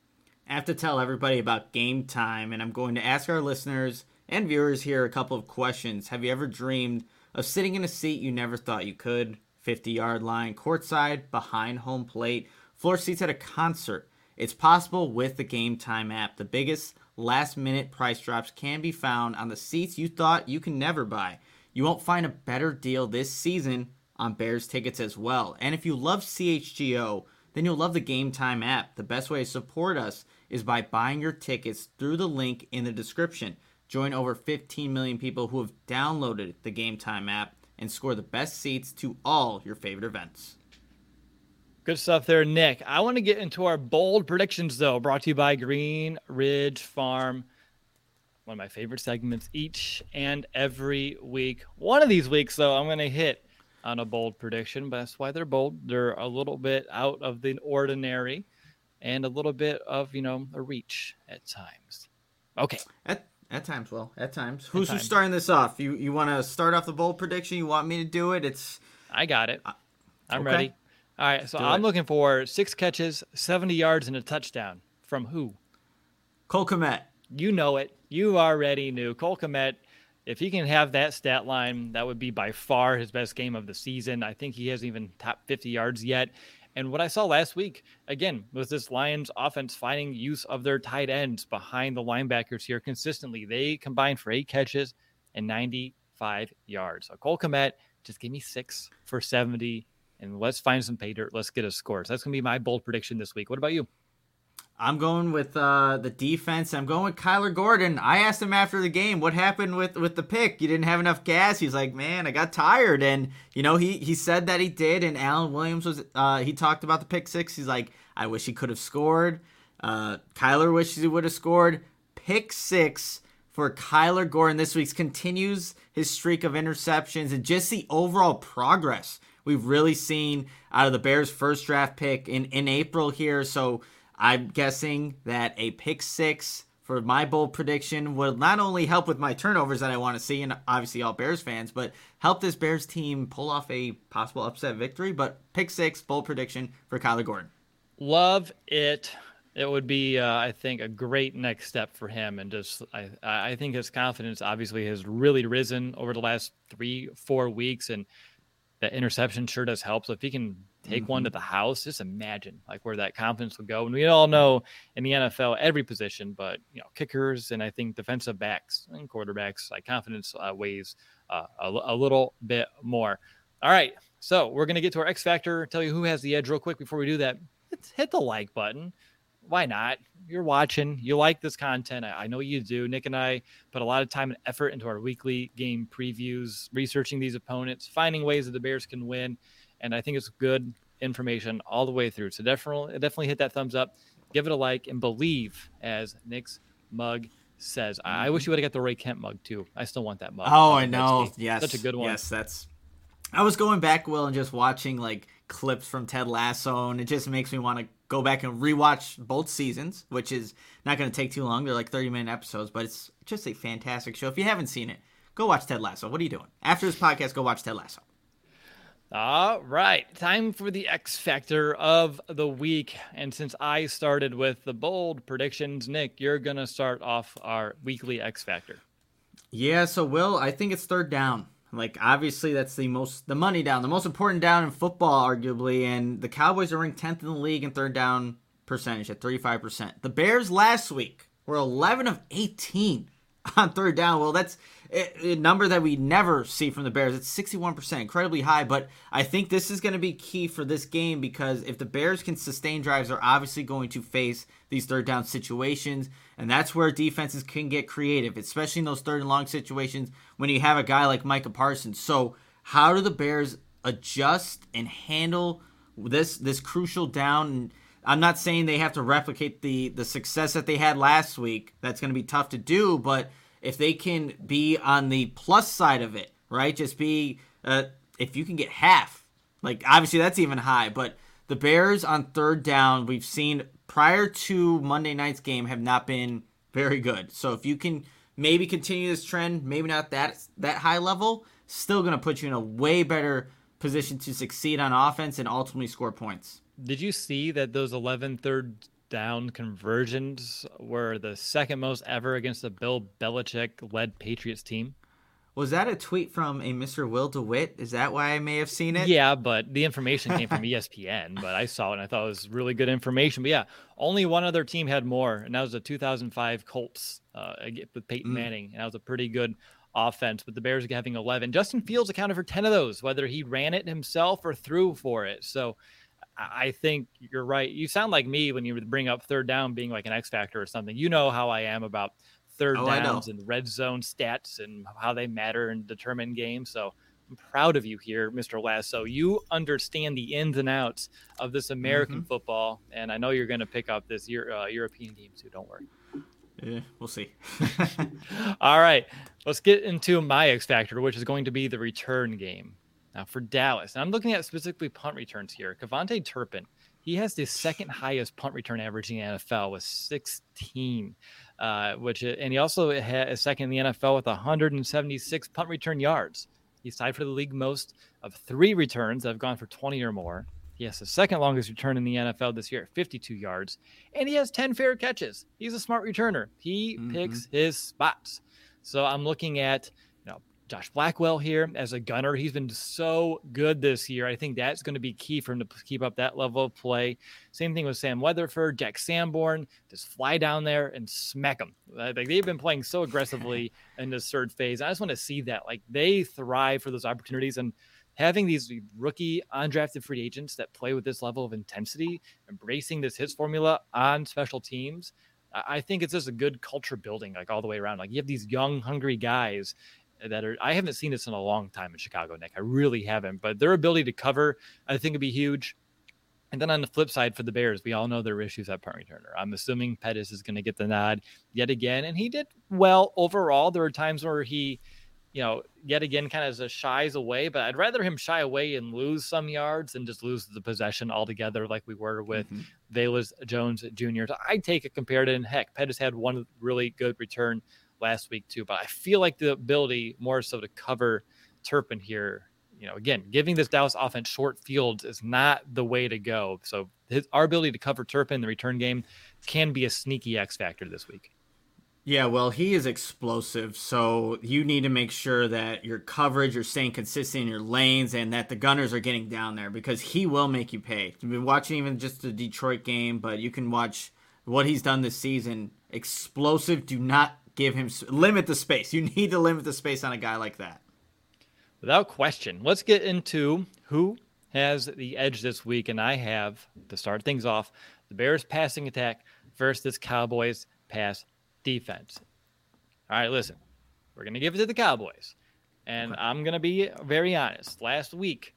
I have to tell everybody about Game Time, and I'm going to ask our listeners and viewers here a couple of questions. Have you ever dreamed of sitting in a seat you never thought you could? fifty-yard line, courtside, behind home plate, floor seats at a concert. It's possible with the Game Time app. The biggest last-minute price drops can be found on the seats you thought you can never buy. You won't find a better deal this season on Bears tickets as well. And if you love C H G O, then you'll love the Game Time app. The best way to support us is by buying your tickets through the link in the description. Join over fifteen million people who have downloaded the Game Time app and score the best seats to all your favorite events.
Good stuff there, Nick. I want to get into our bold predictions, though, brought to you by Green Ridge Farm. one of my favorite segments each and every week. One of these weeks, though, I'm going to hit on a bold prediction, but that's why they're bold. They're a little bit out of the ordinary and a little bit of, you know, a reach at times. Okay.
At at times, well, at times. Who's
At
who's
times.
starting this off? You you want to start off the bold prediction? You want me to do it? It's
I got it. I'm
okay.
ready. All right, so
Do
I'm
it.
looking for six catches, seventy yards, and a touchdown. From who?
Cole Kmet.
You know it. You already knew. Cole Kmet, if he can have that stat line, that would be by far his best game of the season. I think he hasn't even topped fifty yards yet. And what I saw last week, again, was this Lions offense finding use of their tight ends behind the linebackers here consistently. They combined for eight catches and ninety-five yards. So Cole Kmet, just give me six for seventy, and let's find some pay dirt. Let's get a score. So that's going to be my bold prediction this week. What about you?
I'm going with uh, the defense. I'm going with Kyler Gordon. I asked him after the game, what happened with, with the pick? You didn't have enough gas. He's like, man, I got tired. And, you know, he, he said that he did. And Alan Williams was, uh, he talked about the pick six. He's like, I wish he could have scored. Uh, Kyler wishes he would have scored. Pick six for Kyler Gordon this week continues his streak of interceptions and just the overall progress we've really seen out of the Bears' first draft pick in, in April here. So, I'm guessing that a pick six for my bold prediction will not only help with my turnovers that I want to see, and obviously all Bears fans, but help this Bears team pull off a possible upset victory. But pick six, bold prediction for Kyler Gordon.
Love it. It would be, uh, I think, a great next step for him. And just, I, I think his confidence obviously has really risen over the last three, four weeks. And that interception sure does help. So if he can take mm-hmm. one to the house, just imagine like where that confidence would go. And we all know in the N F L, every position, but you know, kickers and I think defensive backs and quarterbacks, like confidence uh, weighs uh, a, a little bit more. All right. So we're going to get to our X Factor, tell you who has the edge real quick. Before we do that, hit, hit the like button. Why not? You're watching, you like this content. I, I know you do. Nick and I put a lot of time and effort into our weekly game previews, researching these opponents, finding ways that the Bears can win. And I think it's good information all the way through. So definitely, definitely hit that thumbs up, give it a like, and believe, as Nick's mug says. I, I wish you would have got the Ray Kemp mug too. I still want that mug.
Oh, I know. Yes.
Such a good one.
Yes, that's. I was going back, Will, and just watching like clips from Ted Lasso, and it just makes me want to go back and rewatch both seasons, which is not going to take too long. They're like thirty minute episodes, but it's just a fantastic show. If you haven't seen it, go watch Ted Lasso. What are you doing? After this podcast, go watch Ted Lasso.
All right, time for the X Factor of the week. And since I started with the bold predictions, Nick, you're going to start off our weekly X Factor.
Yeah, so Will, I think it's third down. Like, obviously, that's the most, the money down, the most important down in football, arguably. And the Cowboys are ranked tenth in the league in third down percentage at thirty-five percent. The Bears last week were eleven of eighteen on third down. Well, that's a, a number that we never see from the Bears. It's sixty-one percent, incredibly high. But I think this is going to be key for this game because if the Bears can sustain drives, they're obviously going to face these third down situations. And that's where defenses can get creative, especially in those third and long situations when you have a guy like Micah Parsons. So how do the Bears adjust and handle this this crucial down? And I'm not saying they have to replicate the, the success that they had last week. That's going to be tough to do. But if they can be on the plus side of it, right, just be uh, if you can get half, like obviously that's even high. But the Bears on third down, we've seen prior to Monday night's game, have not been very good. So if you can maybe continue this trend, maybe not that that high level, still going to put you in a way better position to succeed on offense and ultimately score points.
Did you see that those eleven third down conversions were the second most ever against the Bill Belichick-led Patriots team?
Was that a tweet from a Mister Will DeWitt? Is that why I may have seen it?
Yeah, but the information came from E S P N, but I saw it and I thought it was really good information. But yeah, only one other team had more, and that was the two thousand five Colts uh, with Peyton mm. Manning, and that was a pretty good offense. But the Bears are having eleven. Justin Fields accounted for ten of those, whether he ran it himself or threw for it. So I think you're right. You sound like me when you bring up third down being like an X factor or something. You know how I am about third
oh,
downs and red zone stats and how they matter and determine games. So I'm proud of you here, Mister Lasso. You understand the ins and outs of this American mm-hmm. football, and I know you're going to pick up this Euro, uh, European game too. Don't worry.
Yeah, we'll see.
All right, let's get into my X factor, which is going to be the return game. Now for Dallas, and I'm looking at specifically punt returns here. KaVontae Turpin, he has the second highest punt return average in the N F L with sixteen, uh, which and he also has second in the N F L with one hundred seventy-six punt return yards. He's tied for the league most of three returns that have gone for twenty or more. He has the second longest return in the N F L this year at fifty-two yards, and he has ten fair catches. He's a smart returner. He mm-hmm. picks his spots. So I'm looking at, you know, Josh Blackwell here as a gunner. He's been so good this year. I think that's going to be key for him to keep up that level of play. Same thing with Sam Weatherford, Jack Sanborn. Just fly down there and smack them. Like, they've been playing so aggressively in this third phase. I just want to see that. Like, they thrive for those opportunities, and having these rookie undrafted free agents that play with this level of intensity, embracing this hits formula on special teams, I think it's just a good culture building, like all the way around. Like, you have these young, hungry guys that are, I haven't seen this in a long time in Chicago, Nick. I really haven't, but their ability to cover, I think, would be huge. And then on the flip side for the Bears, we all know their issues at punt returner. I'm assuming Pettis is going to get the nod yet again, and he did well overall. There were times where he, you know, yet again, kind of shies away, but I'd rather him shy away and lose some yards than just lose the possession altogether like we were with mm-hmm. Velus Jones Junior So I'd take a comparative, and heck, Pettis had one really good return last week too, but I feel like the ability more so to cover Turpin here, you know, again, giving this Dallas offense short fields is not the way to go. So his, our ability to cover Turpin in the return game can be a sneaky X factor this week.
Yeah, well, he is explosive, so you need to make sure that your coverage, you're staying consistent in your lanes, and that the gunners are getting down there, because he will make you pay. You've been watching even just the Detroit game, but you can watch what he's done this season. Explosive. Do not give him – limit the space. You need to limit the space on a guy like that.
Without question. Let's get into who has the edge this week, and I have, to start things off, the Bears passing attack versus Cowboys pass defense. All right, listen, we're going to give it to the Cowboys, and okay. I'm going to be very honest. Last week,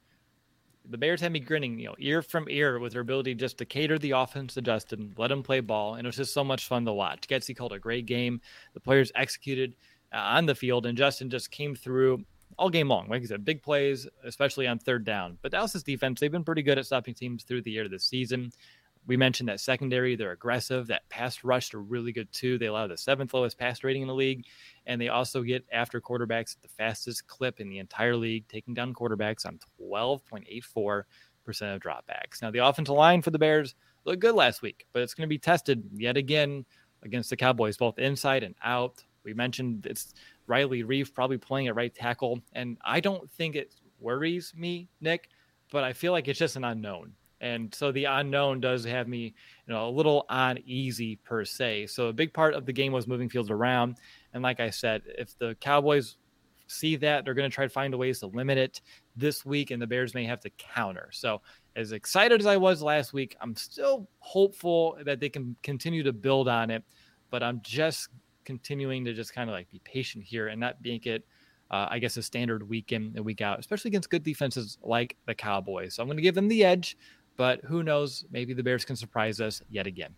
the Bears had me grinning, you know, ear from ear with their ability just to cater the offense to Justin, let him play ball, and it was just so much fun to watch. Getsy called a great game. The players executed uh, on the field, and Justin just came through all game long. Like I said, big plays, especially on third down. But Dallas's defense, they've been pretty good at stopping teams through the year this season. We mentioned that secondary, they're aggressive. That pass rush, they're really good too. They allow the seventh lowest pass rating in the league, and they also get after quarterbacks at the fastest clip in the entire league, taking down quarterbacks on twelve point eight four percent of dropbacks. Now, the offensive line for the Bears looked good last week, but it's going to be tested yet again against the Cowboys, both inside and out. We mentioned it's Riley Reef probably playing at right tackle, and I don't think it worries me, Nick, but I feel like it's just an unknown. And so the unknown does have me, you know, a little uneasy per se. So a big part of the game was moving fields around. And like I said, if the Cowboys see that, they're going to try to find ways to limit it this week, and the Bears may have to counter. So as excited as I was last week, I'm still hopeful that they can continue to build on it, but I'm just continuing to just kind of like be patient here and not make it, uh, I guess, a standard week in and week out, especially against good defenses like the Cowboys. So I'm going to give them the edge. But who knows? Maybe the Bears can surprise us yet again.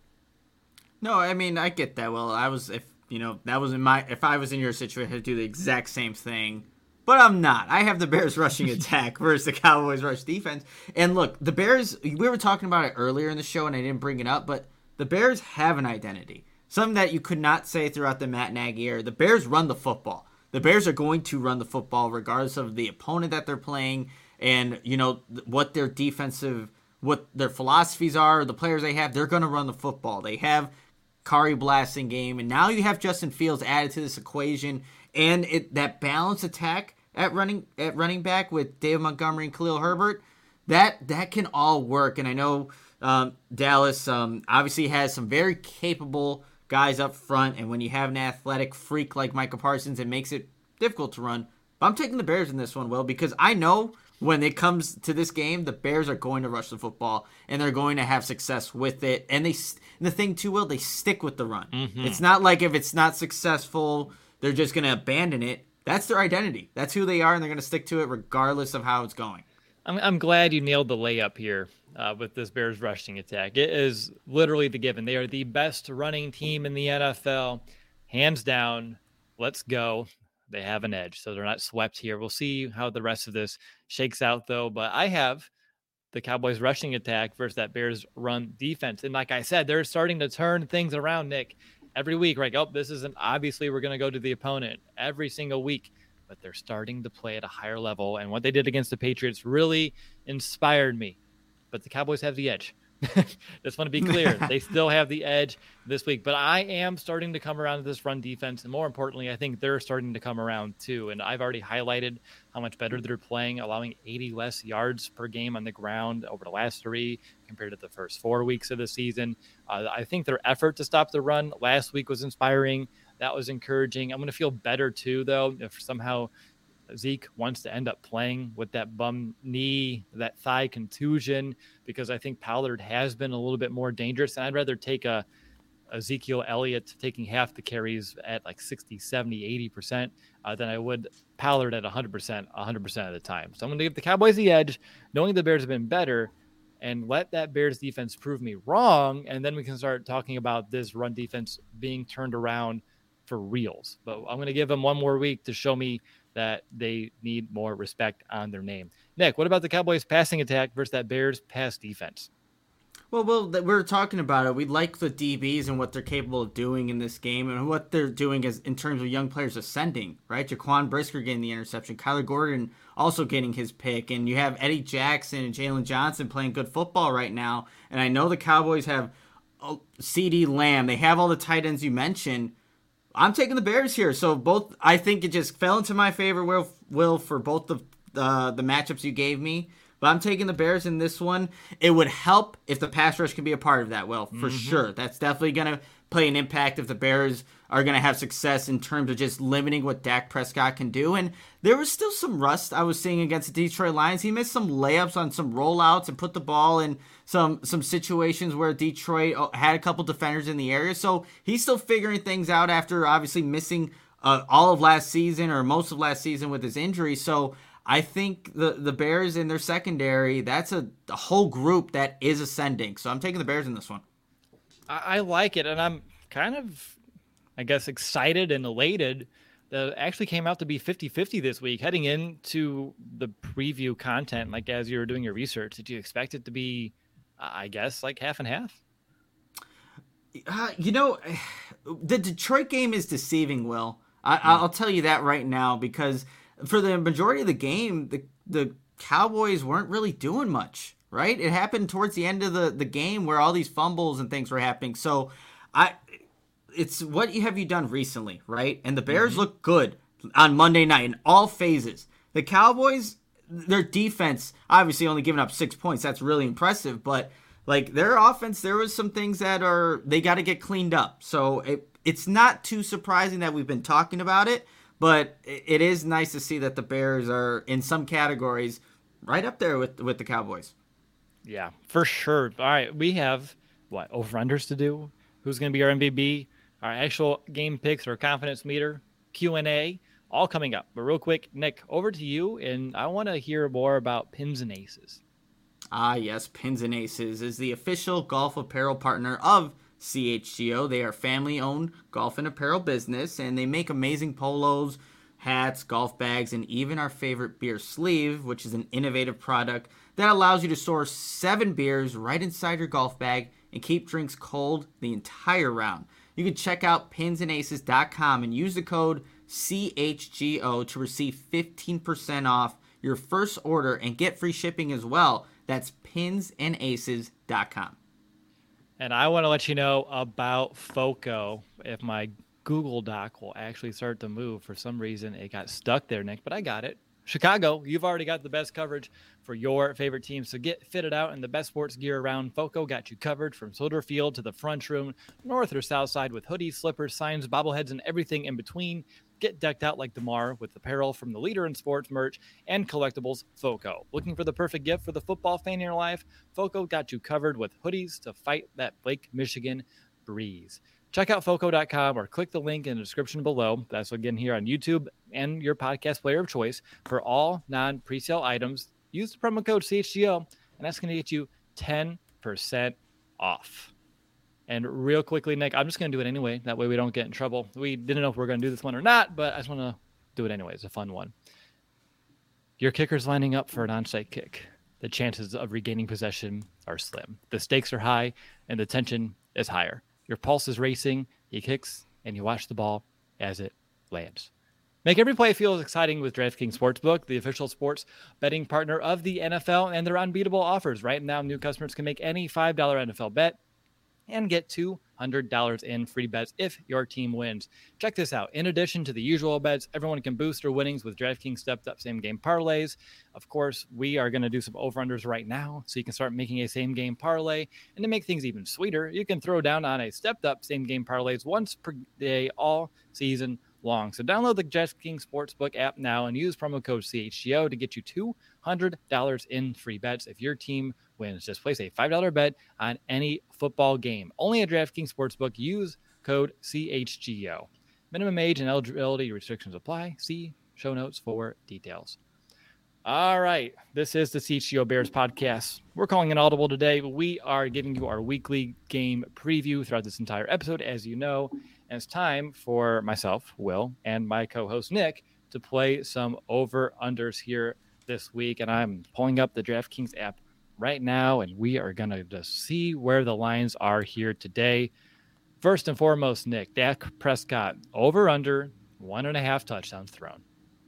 No, I mean, I get that. Well, I was, if you know, that was in my, if I was in your situation, I'd do the exact same thing. But I'm not. I have the Bears rushing attack versus the Cowboys rush defense. And look, the Bears, we were talking about it earlier in the show, and I didn't bring it up, but the Bears have an identity. Something that you could not say throughout the Matt Nagy era. The Bears run the football. The Bears are going to run the football regardless of the opponent that they're playing and, you know, what their defensive, what their philosophies are, the players they have. They're going to run the football. They have Kari Blasingame, and now you have Justin Fields added to this equation, and it that balanced attack at running at running back with David Montgomery and Khalil Herbert, that that can all work. And I know um, Dallas um, obviously has some very capable guys up front, and when you have an athletic freak like Micah Parsons, it makes it difficult to run. But I'm taking the Bears in this one, Will, because I know when it comes to this game, the Bears are going to rush the football, and they're going to have success with it. And they, and the thing too, Will, they stick with the run. Mm-hmm. It's not like if it's not successful, they're just going to abandon it. That's their identity. That's who they are, and they're going to stick to it regardless of how it's going.
I'm, I'm glad you nailed the layup here uh, with this Bears rushing attack. It is literally the given. They are the best running team in the N F L, hands down. Let's go. They have an edge, so they're not swept here. We'll see how the rest of this shakes out, though. But I have the Cowboys rushing attack versus that Bears run defense. And like I said, they're starting to turn things around, Nick. Every week, right? Oh, this isn't obviously we're going to go to the opponent every single week, but they're starting to play at a higher level. And what they did against the Patriots really inspired me. But the Cowboys have the edge. Just want to be clear. They still have the edge this week. But I am starting to come around to this run defense. And more importantly, I think they're starting to come around too. And I've already highlighted how much better they're playing, allowing eighty less yards per game on the ground over the last three compared to the first four weeks of the season. Uh, I think their effort to stop the run last week was inspiring. That was encouraging. I'm going to feel better too, though, if somehow Zeke wants to end up playing with that bum knee, that thigh contusion, because I think Pollard has been a little bit more dangerous. And I'd rather take a Ezekiel Elliott taking half the carries at like sixty, seventy, eighty percent uh, than I would Pollard at one hundred percent, one hundred percent of the time. So I'm going to give the Cowboys the edge, knowing the Bears have been better, and let that Bears defense prove me wrong. And then we can start talking about this run defense being turned around for reals. But I'm going to give them one more week to show me that they need more respect on their name. Nick, what about the Cowboys passing attack versus that Bears pass defense?
Well, well, we we're talking about it. We like the D Bs and what they're capable of doing in this game, and what they're doing is in terms of young players ascending, right? Jaquan Brisker getting the interception, Kyler Gordon also getting his pick, and you have Eddie Jackson and Jalen Johnson playing good football right now. And I know the Cowboys have CeeDee Lamb. They have all the tight ends you mentioned. I'm taking the Bears here. So both, I think it just fell into my favor, Will, Will for both the uh, the matchups you gave me. But I'm taking the Bears in this one. It would help if the pass rush can be a part of that, Will, for mm-hmm. sure. That's definitely going to play an impact if the Bears are going to have success in terms of just limiting what Dak Prescott can do. And there was still some rust I was seeing against the Detroit Lions. He missed some layups on some rollouts and put the ball in some some situations where Detroit had a couple defenders in the area. So he's still figuring things out after obviously missing uh, all of last season or most of last season with his injury. So I think the, the Bears in their secondary, that's a, a whole group that is ascending. So I'm taking the Bears in this one.
I, I like it, and I'm kind of, I guess, excited and elated that it actually came out to be fifty-fifty this week. Heading into the preview content, like as you were doing your research, did you expect it to be, I guess, like half and half?
Uh, you know, the Detroit game is deceiving, Will. I, mm. I'll tell you that right now, because for the majority of the game, the the Cowboys weren't really doing much, right? It happened towards the end of the, the game where all these fumbles and things were happening. So I, it's what have you done recently, right? And the Bears mm-hmm. look good on Monday night in all phases. The Cowboys, their defense, obviously only giving up six points. That's really impressive. But like their offense, there was some things that are, they got to get cleaned up. So it, it's not too surprising that we've been talking about it. But it is nice to see that the Bears are, in some categories, right up there with with the Cowboys.
Yeah, for sure. All right, we have, what, over-unders to do? Who's going to be our M V P? Our actual game picks, our confidence meter, Q and A, all coming up. But real quick, Nick, over to you, and I want to hear more about Pins and Aces.
Ah, yes, Pins and Aces is the official golf apparel partner of C H G O. They are family-owned golf and apparel business, and they make amazing polos, hats, golf bags, and even our favorite beer sleeve, which is an innovative product that allows you to store seven beers right inside your golf bag and keep drinks cold the entire round. You can check out pins and aces dot com and use the code C H G O to receive fifteen percent off your first order and get free shipping as well. That's pins and aces dot com.
And I want to let you know about FOCO. If my Google Doc will actually start to move. For some reason, it got stuck there, Nick, but I got it. Chicago, you've already got the best coverage for your favorite team. So get fitted out in the best sports gear around. FOCO got you covered from Soldier Field to the front room, north or south side, with hoodies, slippers, signs, bobbleheads, and everything in between. Get decked out like DeMar with apparel from the leader in sports merch and collectibles, FOCO. Looking for the perfect gift for the football fan in your life? FOCO got you covered with hoodies to fight that Lake Michigan breeze. Check out foco dot com or click the link in the description below. That's again here on YouTube and your podcast player of choice for all non-presale items. use the promo code C H G O, and that's going to get you ten percent off. And real quickly, Nick, I'm just going to do it anyway. That way we don't get in trouble. We didn't know if we are going to do this one or not, but I just want to do it anyway. It's a fun one. Your kicker's lining up for an onside kick. The chances of regaining possession are slim. The stakes are high, and the tension is higher. Your pulse is racing. He kicks, and you watch the ball as it lands. Make every play feel as exciting with DraftKings Sportsbook, the official sports betting partner of the N F L, and their unbeatable offers. Right now, new customers can make any five dollars N F L bet and get two hundred dollars in free bets if your team wins. Check this out. In addition to the usual bets, everyone can boost their winnings with DraftKings stepped-up same-game parlays. Of course, we are going to do some over-unders right now, so you can start making a same-game parlay. And to make things even sweeter, you can throw down on a stepped-up same-game parlays once per day all season long. So download the DraftKings Sportsbook app now and use promo code C H G O to get you two hundred dollars in free bets if your team wins. Just place a five dollars bet on any football game. Only at DraftKings Sportsbook. Use code C H G O. Minimum age and eligibility restrictions apply. See show notes for details. All right. This is the C H G O Bears podcast. We're calling an audible today. We are giving you our weekly game preview throughout this entire episode, as you know. And it's time for myself, Will, and my co-host, Nick, to play some over-unders here this week. And I'm pulling up the DraftKings app right now, and we are going to just see where the lines are here today. First and foremost, Nick, Dak Prescott, over-under, one and a half touchdowns thrown.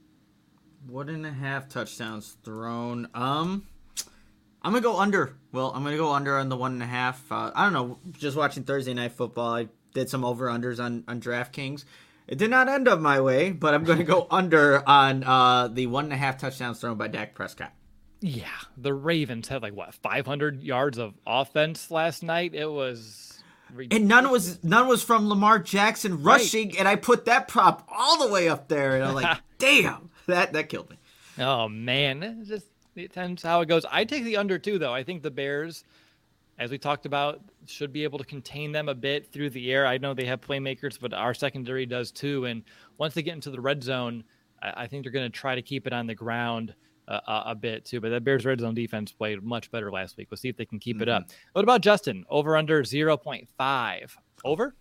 One and a half touchdowns thrown. Um, I'm going to go under. Well, I'm going to go under on the one and a half. Uh, I don't know. Just watching Thursday Night Football, I did some over-unders on, on DraftKings. It did not end up my way, but I'm going to go under on uh, the one and a half touchdowns thrown by Dak Prescott.
Yeah, the Ravens had like, what, five hundred yards of offense last night? It was ridiculous.
And none was none was from Lamar Jackson rushing, right. And I put that prop all the way up there, and I'm like, damn, that, that killed me.
Oh, man. It just it depends how it goes. I take the under, too, though. I think the Bears, as we talked about, should be able to contain them a bit through the air. I know they have playmakers, but our secondary does too. And once they get into the red zone, I, I think they're going to try to keep it on the ground uh, a, a bit too. But that Bears red zone defense played much better last week. We'll see if they can keep mm-hmm. it up. What about Justin? Over under zero point five. Over?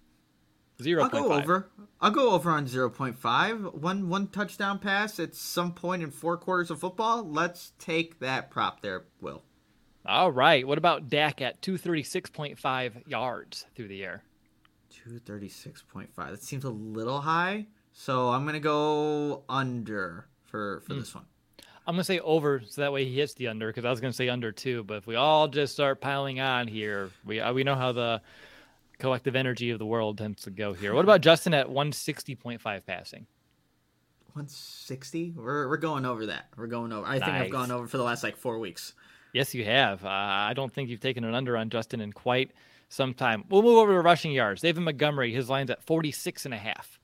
zero point five.
I'll go over. I'll go over on zero point five. One one touchdown pass at some point in four quarters of football. Let's take that prop there, Will.
All right. What about Dak at two thirty-six point five yards through the air?
two thirty-six point five. That seems a little high. So I'm going to go under for, for mm. this one.
I'm going to say over so that way he hits the under because I was going to say under too. But if we all just start piling on here, we we know how the collective energy of the world tends to go here. What about Justin at one sixty point five passing?
one sixty? We're, we're going over that. We're going over. I nice. think I've gone over for the last like four weeks.
Yes, you have. Uh, I don't think you've taken an under on Justin in quite some time. We'll move over to rushing yards. David Montgomery, his line's at forty-six and a half.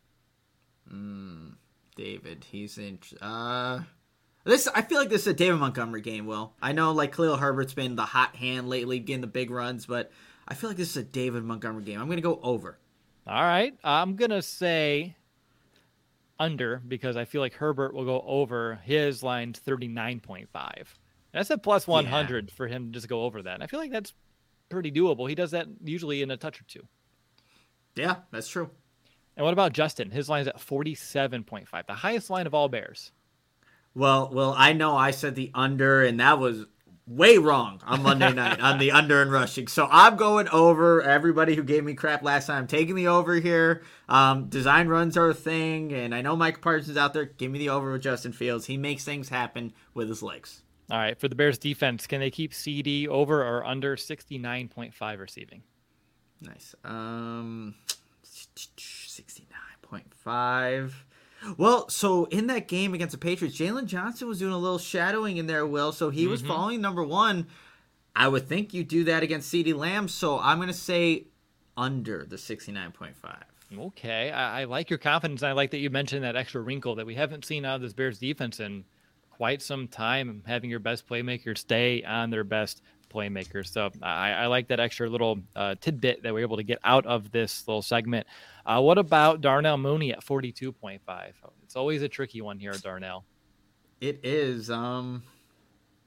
Mm, David, he's in. Uh, this I feel like this is a David Montgomery game, Will. I know like Khalil Herbert's been the hot hand lately, getting the big runs, but I feel like this is a David Montgomery game. I'm going to go over.
All right. I'm going to say under because I feel like Herbert will go over. His line's thirty-nine point five. That's a plus one hundred yeah. for him to just go over that. And I feel like that's pretty doable. He does that usually in a touch or two.
Yeah, that's true.
And what about Justin? His line is at forty-seven point five, the highest line of all Bears.
Well, well, I know I said the under, and that was way wrong on Monday night on the under and rushing. So I'm going over. Everybody who gave me crap last time, I'm taking the over here. Um, design runs are a thing, and I know Mike Parsons out there. Give me the over with Justin Fields. He makes things happen with his legs.
All right, for the Bears defense, can they keep C D over or under sixty-nine point five receiving?
Nice. Um, sixty-nine point five. Well, so in that game against the Patriots, Jalen Johnson was doing a little shadowing in there, Will. So he mm-hmm. was following number one. I would think you do that against CeeDee Lamb. So I'm going to say under the sixty-nine point five.
Okay, I, I like your confidence. I like that you mentioned that extra wrinkle that we haven't seen out of this Bears defense in quite some time, having your best playmakers stay on their best playmakers. So I, I like that extra little uh, tidbit that we're able to get out of this little segment. Uh, what about Darnell Mooney at forty-two point five? It's always a tricky one here, Darnell.
It is. Um,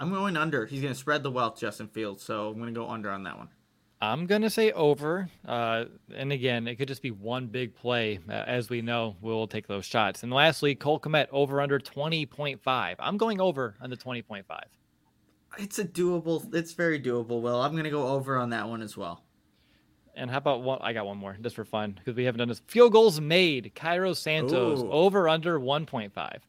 I'm going under. He's going to spread the wealth, Justin Fields. So I'm going to go under on that one.
I'm going to say over. Uh, and again, it could just be one big play. Uh, as we know, we'll take those shots. And lastly, Cole Kmet over under twenty point five. I'm going over on the twenty point five.
It's a doable. It's very doable, Will. I'm going to go over on that one as well.
And how about one? I got one more just for fun because we haven't done this. Field goals made. Cairo Santos
Ooh.
over under one point five.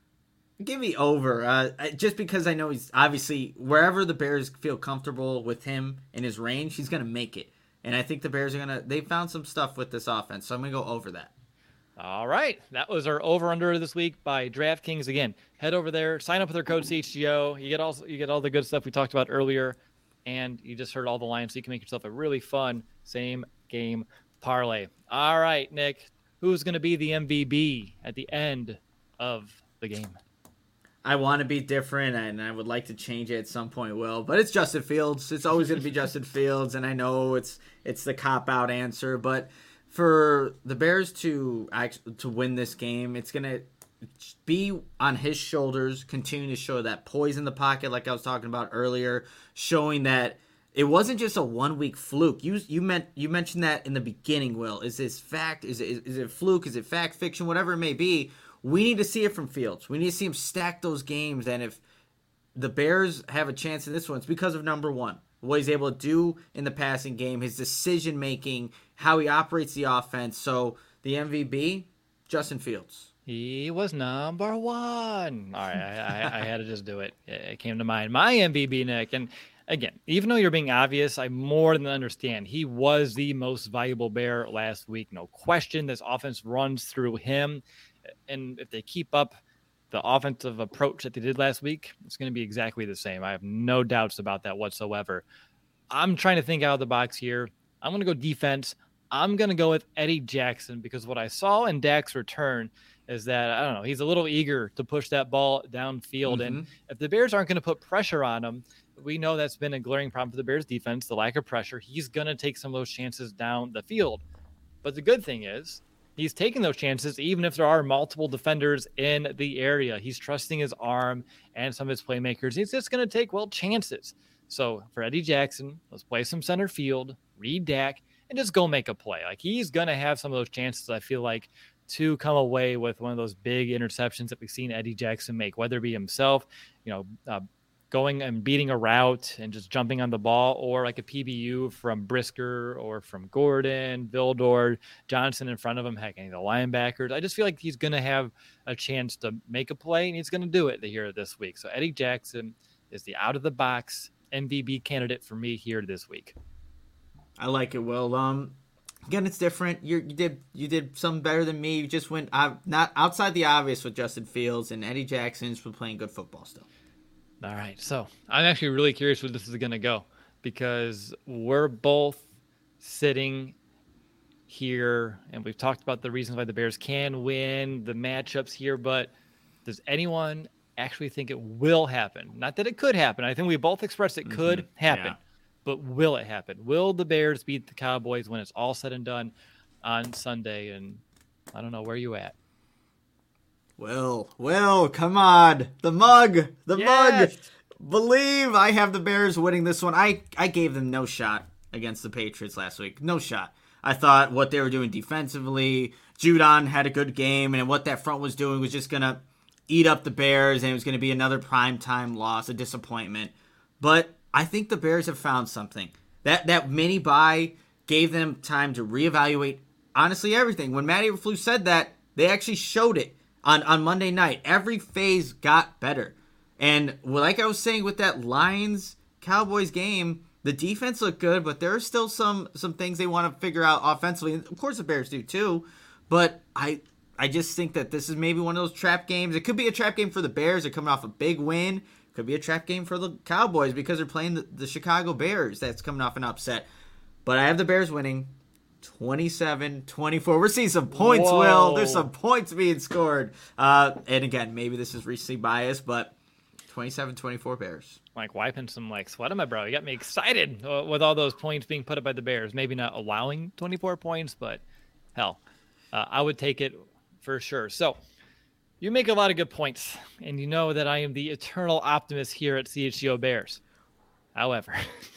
Give me over, uh, just because I know he's obviously wherever the Bears feel comfortable with him in his range, he's going to make it. And I think the Bears are going to, they found some stuff with this offense, so I'm going to go over that.
All right. That was our over-under this week by DraftKings. Again, head over there, sign up with our code C H G O. You get all, you get all the good stuff we talked about earlier, and you just heard all the lines, so you can make yourself a really fun same-game parlay. All right, Nick, who's going to be the M V P at the end of the game?
I want to be different, and I would like to change it at some point, Will. But it's Justin Fields. It's always going to be Justin Fields, and I know it's it's the cop-out answer. But for the Bears to to win this game, it's going to be on his shoulders, continue to show that poise in the pocket like I was talking about earlier, showing that it wasn't just a one-week fluke. You you meant you mentioned that in the beginning, Will. Is this fact? Is it, is it fluke? Is it fact, fiction? Whatever it may be. We need to see it from Fields. We need to see him stack those games. And if the Bears have a chance in this one, it's because of number one, what he's able to do in the passing game, his decision-making, how he operates the offense. So the M V P, Justin Fields.
He was number one. All right, I, I, I had to just do it. It came to mind. My M V P, Nick. And again, even though you're being obvious, I more than understand. He was the most valuable Bear last week. No question. This offense runs through him. And if they keep up the offensive approach that they did last week, it's going to be exactly the same. I have no doubts about that whatsoever. I'm trying to think out of the box here. I'm going to go defense. I'm going to go with Eddie Jackson because what I saw in Dak's return is that, I don't know, he's a little eager to push that ball downfield. Mm-hmm. And if the Bears aren't going to put pressure on him, we know that's been a glaring problem for the Bears defense, the lack of pressure. He's going to take some of those chances down the field. But the good thing is, he's taking those chances, even if there are multiple defenders in the area. He's trusting his arm and some of his playmakers. He's just going to take, well, chances. So for Eddie Jackson, let's play some center field, read Dak, and just go make a play. Like, he's going to have some of those chances, I feel like, to come away with one of those big interceptions that we've seen Eddie Jackson make, whether it be himself, you know, uh, going and beating a route and just jumping on the ball, or like a P B U from Brisker or from Gordon, Vildor, Johnson in front of him, heck, any of the linebackers. I just feel like he's going to have a chance to make a play, and he's going to do it here this week. So Eddie Jackson is the out-of-the-box M V P candidate for me here this week.
I like it, Will. Um, again, it's different. You're, you did you did something better than me. You just went uh, not outside the obvious with Justin Fields, and Eddie Jackson's been playing good football still.
All right, so I'm actually really curious where this is going to go because we're both sitting here, and we've talked about the reasons why the Bears can win, the matchups here, but does anyone actually think it will happen? Not that it could happen. I think we both expressed it could mm-hmm. happen, yeah. But will it happen? Will the Bears beat the Cowboys when it's all said and done on Sunday? And I don't know, where you at?
Will, Will, come on. The mug, the
yes.
mug. Believe I have the Bears winning this one. I, I gave them no shot against the Patriots last week. No shot. I thought what they were doing defensively, Judon had a good game, and what that front was doing was just going to eat up the Bears, and it was going to be another primetime loss, a disappointment. But I think the Bears have found something. That that mini bye gave them time to reevaluate, honestly, everything. When Matt Eberflus said that, they actually showed it. On, on Monday night, every phase got better. And like I was saying with that Lions-Cowboys game, the defense looked good, but there are still some some things they want to figure out offensively. And of course, the Bears do too. But I I just think that this is maybe one of those trap games. It could be a trap game for the Bears. They're coming off a big win. It could be a trap game for the Cowboys because they're playing the, the Chicago Bears. That's coming off an upset. But I have the Bears winning. twenty-seven twenty-four. We're seeing some points,
Whoa.
Will. There's some points being scored. Uh, and again, maybe this is recency bias, but twenty-seven twenty-four Bears.
Like wiping some like sweat on my brow. You got me excited uh, with all those points being put up by the Bears. Maybe not allowing twenty-four points, but hell, uh, I would take it for sure. So You make a lot of good points, and you know that I am the eternal optimist here at C H G O Bears. However,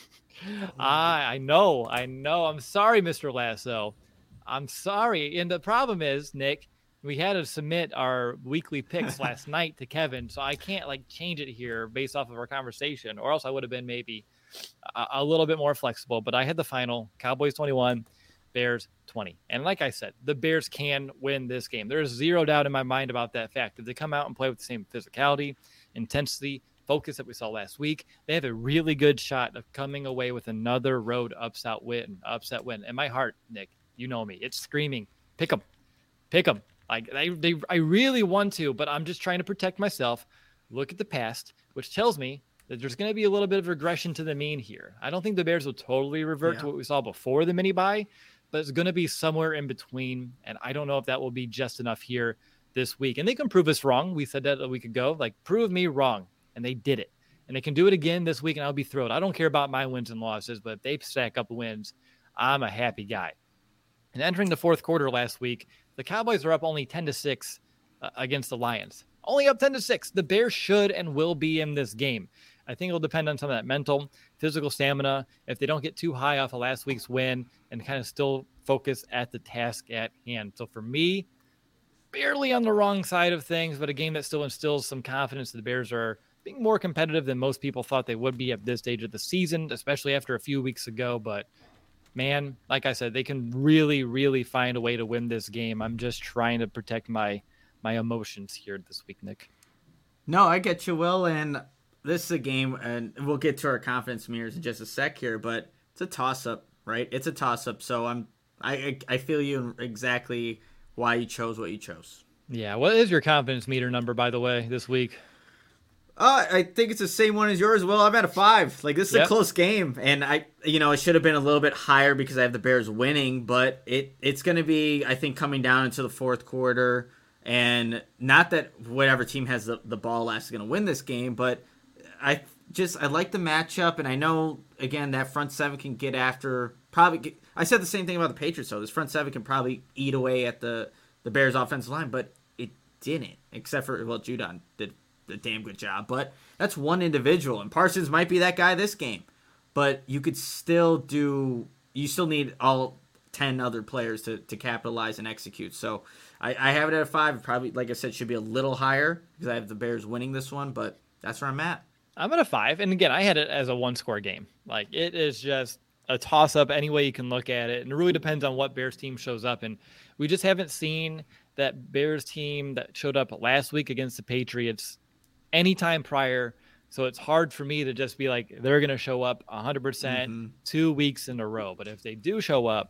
I I know, I know. I'm sorry, Mister Lasso. I'm sorry. And the problem is, Nick, we had to submit our weekly picks last night to Kevin, so I can't like change it here based off of our conversation, or else I would have been maybe a, a little bit more flexible. But I had the final Cowboys twenty-one, Bears twenty. And like I said, the Bears can win this game. There's zero doubt in my mind about that fact. If they come out and play with the same physicality, intensity, focus that we saw last week, they have a really good shot of coming away with another road upset win, upset win. And my heart, Nick, you know me, it's screaming, pick them, pick them. Like they, they, I really want to, but I'm just trying to protect myself. Look at the past, which tells me that there's going to be a little bit of regression to the mean here. I don't think the Bears will totally revert yeah. to what we saw before the mini bye, but it's going to be somewhere in between. And I don't know if that will be just enough here this week. And they can prove us wrong. We said that a week ago, like prove me wrong. And they did it. And they can do it again this week, and I'll be thrilled. I don't care about my wins and losses, but if they stack up wins, I'm a happy guy. And entering the fourth quarter last week, the Cowboys are up only ten to six uh, against the Lions. Only up ten to six. The Bears should and will be in this game. I think it'll depend on some of that mental, physical stamina. If they don't get too high off of last week's win and kind of still focus at the task at hand. So for me, barely on the wrong side of things, but a game that still instills some confidence that the Bears are being more competitive than most people thought they would be at this stage of the season, especially after a few weeks ago. But man, like I said, they can really, really find a way to win this game. I'm just trying to protect my my emotions here this week, Nick.
No, I get you, Will, and this is a game, and we'll get to our confidence mirrors in just a sec here, but it's a toss-up, right? It's a toss-up, so I'm I I feel you exactly why you chose what you chose.
Yeah, what is your confidence meter number, by the way, this week?
Uh, I think it's the same one as yours. Well, I'm at a five. Like, this is yep. a close game, and I, you know, it should have been a little bit higher because I have the Bears winning, but it it's going to be, I think, coming down into the fourth quarter, and not that whatever team has the, the ball last is going to win this game, but I just, I like the matchup, and I know, again, that front seven can get after, probably, get, I said the same thing about the Patriots, though. This front seven can probably eat away at the, the Bears' offensive line, but it didn't, except for, well, Judon did a damn good job, but that's one individual, and Parsons might be that guy this game, but you could still do, you still need all ten other players to, to capitalize and execute. So I, I have it at a five. Probably, like I said, should be a little higher because I have the Bears winning this one, but that's where I'm at.
I'm at a five, and again, I had it as a one score game. Like, it is just a toss up any way you can look at it, and it really depends on what Bears team shows up, and we just haven't seen that Bears team that showed up last week against the Patriots anytime prior. So it's hard for me to just be like, they're going to show up one hundred percent mm-hmm. two weeks in a row. But if they do show up,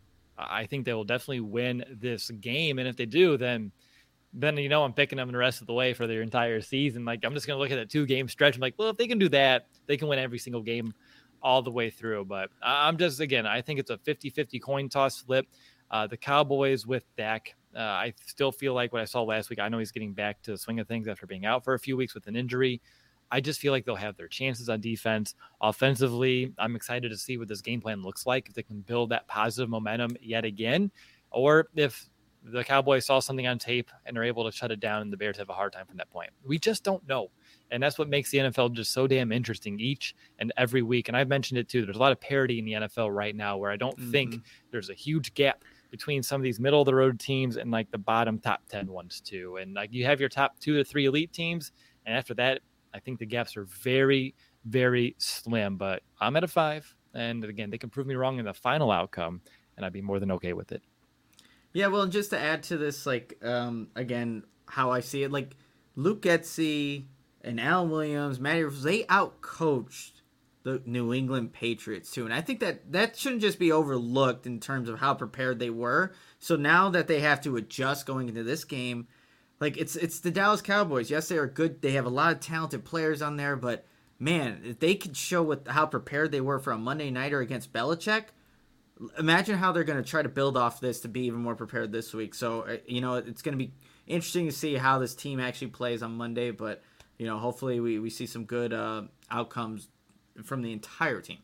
I think they will definitely win this game. And if they do, then, then you know, I'm picking them the rest of the way for their entire season. Like, I'm just going to look at that two-game stretch. I'm like, well, if they can do that, they can win every single game all the way through. But I'm just, again, I think it's a fifty-fifty coin toss flip. Uh, the Cowboys with Dak, Uh, I still feel like what I saw last week, I know he's getting back to the swing of things after being out for a few weeks with an injury. I just feel like they'll have their chances on defense. Offensively, I'm excited to see what this game plan looks like, if they can build that positive momentum yet again, or if the Cowboys saw something on tape and are able to shut it down and the Bears have a hard time from that point. We just don't know. And that's what makes the N F L just so damn interesting each and every week. And I've mentioned it too. There's a lot of parity in the N F L right now where I don't mm-hmm. think there's a huge gap between some of these middle of the road teams and like the bottom top ten ones too. And like you have your top two to three elite teams. And after that, I think the gaps are very, very slim, but I'm at a five. And again, they can prove me wrong in the final outcome and I'd be more than okay with it.
Yeah. Well, just to add to this, like, um, again, how I see it, like Luke Getsy and Alan Williams, Matty, they outcoached the New England Patriots too. And I think that that shouldn't just be overlooked in terms of how prepared they were. So now that they have to adjust going into this game, like it's it's the Dallas Cowboys. Yes, they are good. They have a lot of talented players on there, but man, if they could show what how prepared they were for a Monday nighter against Belichick, imagine how they're going to try to build off this to be even more prepared this week. So, you know, it's going to be interesting to see how this team actually plays on Monday, but, you know, hopefully we, we see some good uh, outcomes from the entire team.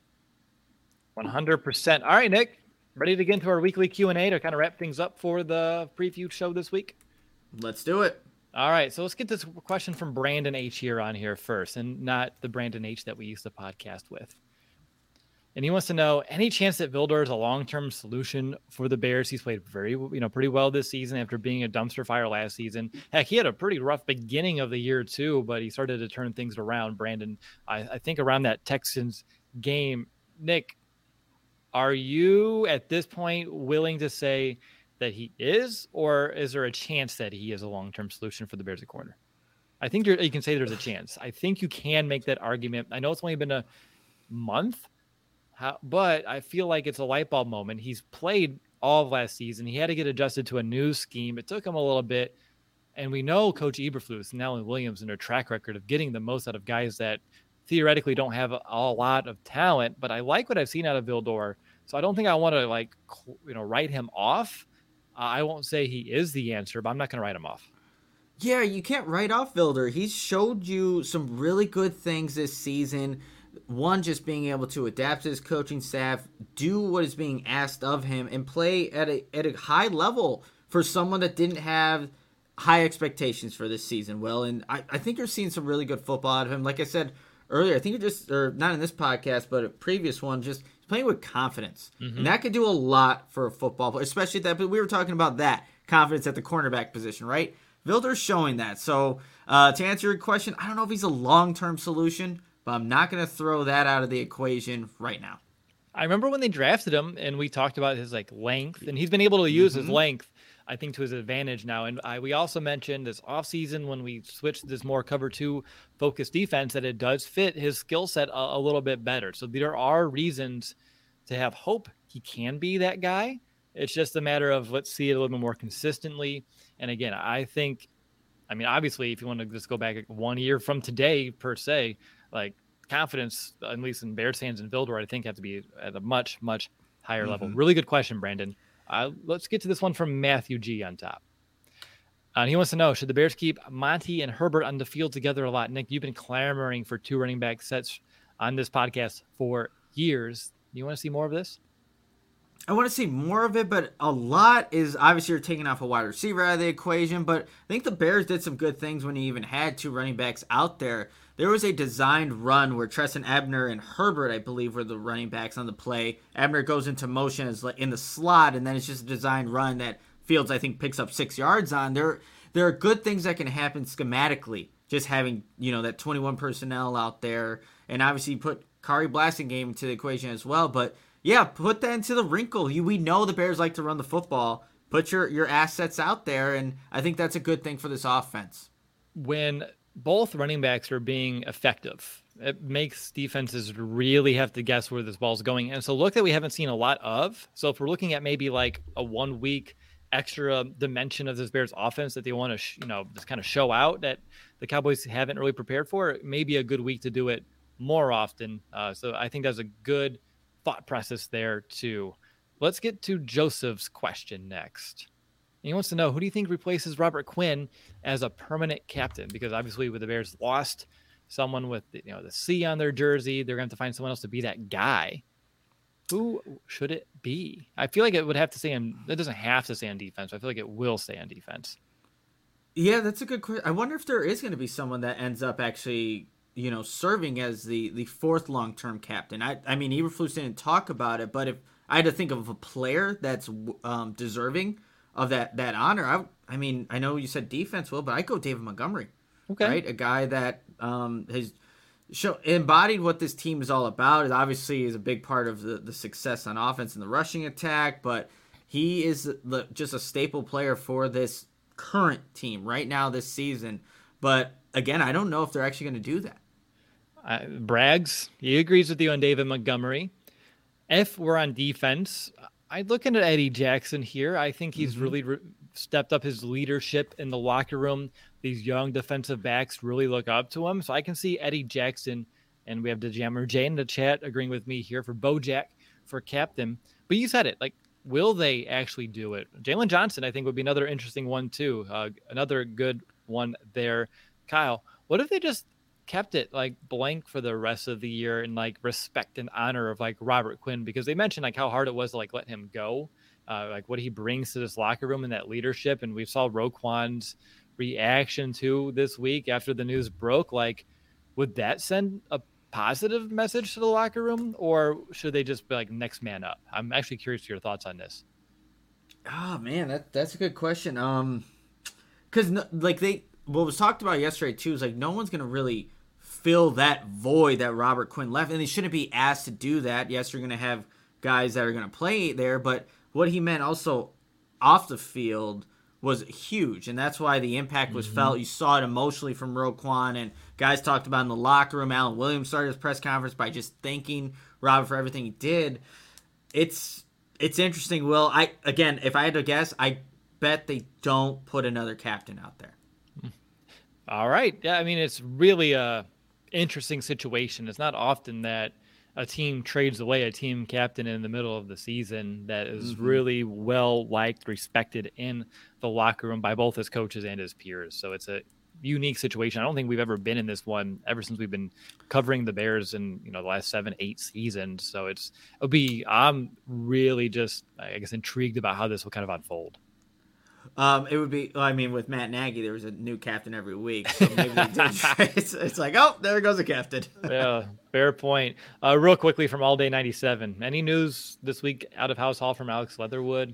one hundred percent. All right, Nick, ready to get into our weekly Q and A to kind of wrap things up for the preview show this week?
Let's do it.
All right, so let's get this question from Brandon H here on here first, and not the Brandon H that we used to podcast with. And he wants to know, any chance that Vildor is a long-term solution for the Bears? He's played very, you know, pretty well this season after being a dumpster fire last season. Heck, he had a pretty rough beginning of the year too, but he started to turn things around. Brandon, I, I think around that Texans game. Nick, are you at this point willing to say that he is, or is there a chance that he is a long-term solution for the Bears at corner? I think you're, you can say there's a chance. I think you can make that argument. I know it's only been a month. How, but I feel like it's a light bulb moment. He's played all of last season. He had to get adjusted to a new scheme. It took him a little bit. And we know Coach Eberflus and Alan Williams and their track record of getting the most out of guys that theoretically don't have a, a lot of talent. But I like what I've seen out of Vildor. So I don't think I want to, like, you know, write him off. Uh, I won't say he is the answer, but I'm not going to write him off.
Yeah, you can't write off Vildor. He's showed you some really good things this season. One, just being able to adapt to his coaching staff, do what is being asked of him, and play at a at a high level for someone that didn't have high expectations for this season, Will. And I, I think you're seeing some really good football out of him. Like I said earlier, I think you're just, or not in this podcast, but a previous one, just playing with confidence. Mm-hmm. And that could do a lot for a football player, especially that, but we were talking about that, confidence at the cornerback position, right? Vildor's showing that. So uh, to answer your question, I don't know if he's a long-term solution, but I'm not going to throw that out of the equation right now.
I remember when they drafted him and we talked about his like length, and he's been able to use mm-hmm. his length, I think, to his advantage now. And I, we also mentioned this offseason when we switched this more cover two focused defense that it does fit his skill set a, a little bit better. So there are reasons to have hope he can be that guy. It's just a matter of let's see it a little bit more consistently. And again, I think, I mean, obviously, if you want to just go back one year from today per se, like confidence, at least in Bears fans and Vildor, I think have to be at a much, much higher mm-hmm. level. Really good question, Brandon. Uh, let's get to this one from Matthew G on top. Uh, and he wants to know, should the Bears keep Monty and Herbert on the field together a lot? Nick, you've been clamoring for two running back sets on this podcast for years. Do you want to see more of this?
I want to see more of it, but a lot is obviously you're taking off a wide receiver out of the equation. But I think the Bears did some good things when he even had two running backs out there. There was a designed run where Treston Ebner and Herbert, I believe, were the running backs on the play. Ebner goes into motion as in the slot, and then it's just a designed run that Fields, I think, picks up six yards on. There, there are good things that can happen schematically, just having, you know, that twenty-one personnel out there. And obviously you put Kari Blasingame into the equation as well. But yeah, put that into the wrinkle. You, we know the Bears like to run the football. Put your, your assets out there, and I think that's a good thing for this offense.
When both running backs are being effective, it makes defenses really have to guess where this ball's going. And so look that we haven't seen a lot of. So if we're looking at maybe like a one week extra dimension of this Bears offense that they want to, sh- you know, just kind of show out that the Cowboys haven't really prepared for, it may be a good week to do it more often. Uh, so I think that's a good thought process there too. Let's get to Joseph's question next. He wants to know, who do you think replaces Robert Quinn as a permanent captain? Because obviously with the Bears lost someone with, you know, the C on their jersey, they're going to have to find someone else to be that guy. Who should it be? I feel like it would have to stay on, it doesn't have to stay on defense. I feel like it will stay on defense.
Yeah, that's a good question. I wonder if there is going to be someone that ends up actually, you know, serving as the, the fourth long-term captain. I I mean, Eberflus didn't talk about it, but if I had to think of a player that's um, deserving of that, that honor, I I mean, I know you said defense, Will, but I'd go David Montgomery. Okay. Right? A guy that um, has show, embodied what this team is all about. It obviously is a big part of the, the success on offense and the rushing attack, but he is the, just a staple player for this current team right now this season. But again, I don't know if they're actually going to do that.
Uh, Braggs, he agrees with you on David Montgomery. If we're on defense, I'd look into Eddie Jackson here. I think he's mm-hmm. really re- stepped up his leadership in the locker room. These young defensive backs really look up to him. So I can see Eddie Jackson, and we have DeJammer Jane in the chat agreeing with me here for Bojack for captain. But you said it, like, will they actually do it? Jalen Johnson, I think, would be another interesting one too. Uh, another good one there. Kyle, what if they just kept it like blank for the rest of the year and like respect and honor of like Robert Quinn? Because they mentioned like how hard it was to like let him go, uh, like what he brings to this locker room and that leadership. And we saw Roquan's reaction to this week after the news broke, like, would that send a positive message to the locker room, or should they just be like next man up? I'm actually curious to your thoughts on this.
Oh man, that that's a good question. Um, because no, like they what was talked about yesterday too is like no one's gonna really fill that void that Robert Quinn left, and they shouldn't be asked to do that. Yes, you're gonna have guys that are gonna play there, but what he meant also off the field was huge, and that's why the impact was mm-hmm. felt. You saw it emotionally from Roquan, and guys talked about in the locker room. Alan Williams started his press conference by just thanking Robert for everything he did. It's it's interesting, Will. I again, if I had to guess, I bet they don't put another captain out there.
All right. Yeah, I mean, it's really a interesting situation. It's not often that a team trades away a team captain in the middle of the season that is mm-hmm. really well liked, respected in the locker room by both his coaches and his peers. So it's a unique situation. I don't think we've ever been in this one ever since we've been covering the Bears in, you know, the last seven, eight seasons. So it's, it'll be, I'm really just, I guess, intrigued about how this will kind of unfold.
Um, it would be, I mean, with Matt Nagy, there was a new captain every week. So maybe they did try, it's, it's like, oh, there goes a captain.
Yeah, fair point. Uh, real quickly from All Day ninety-seven. Any news this week out of House Hall from Alex Leatherwood?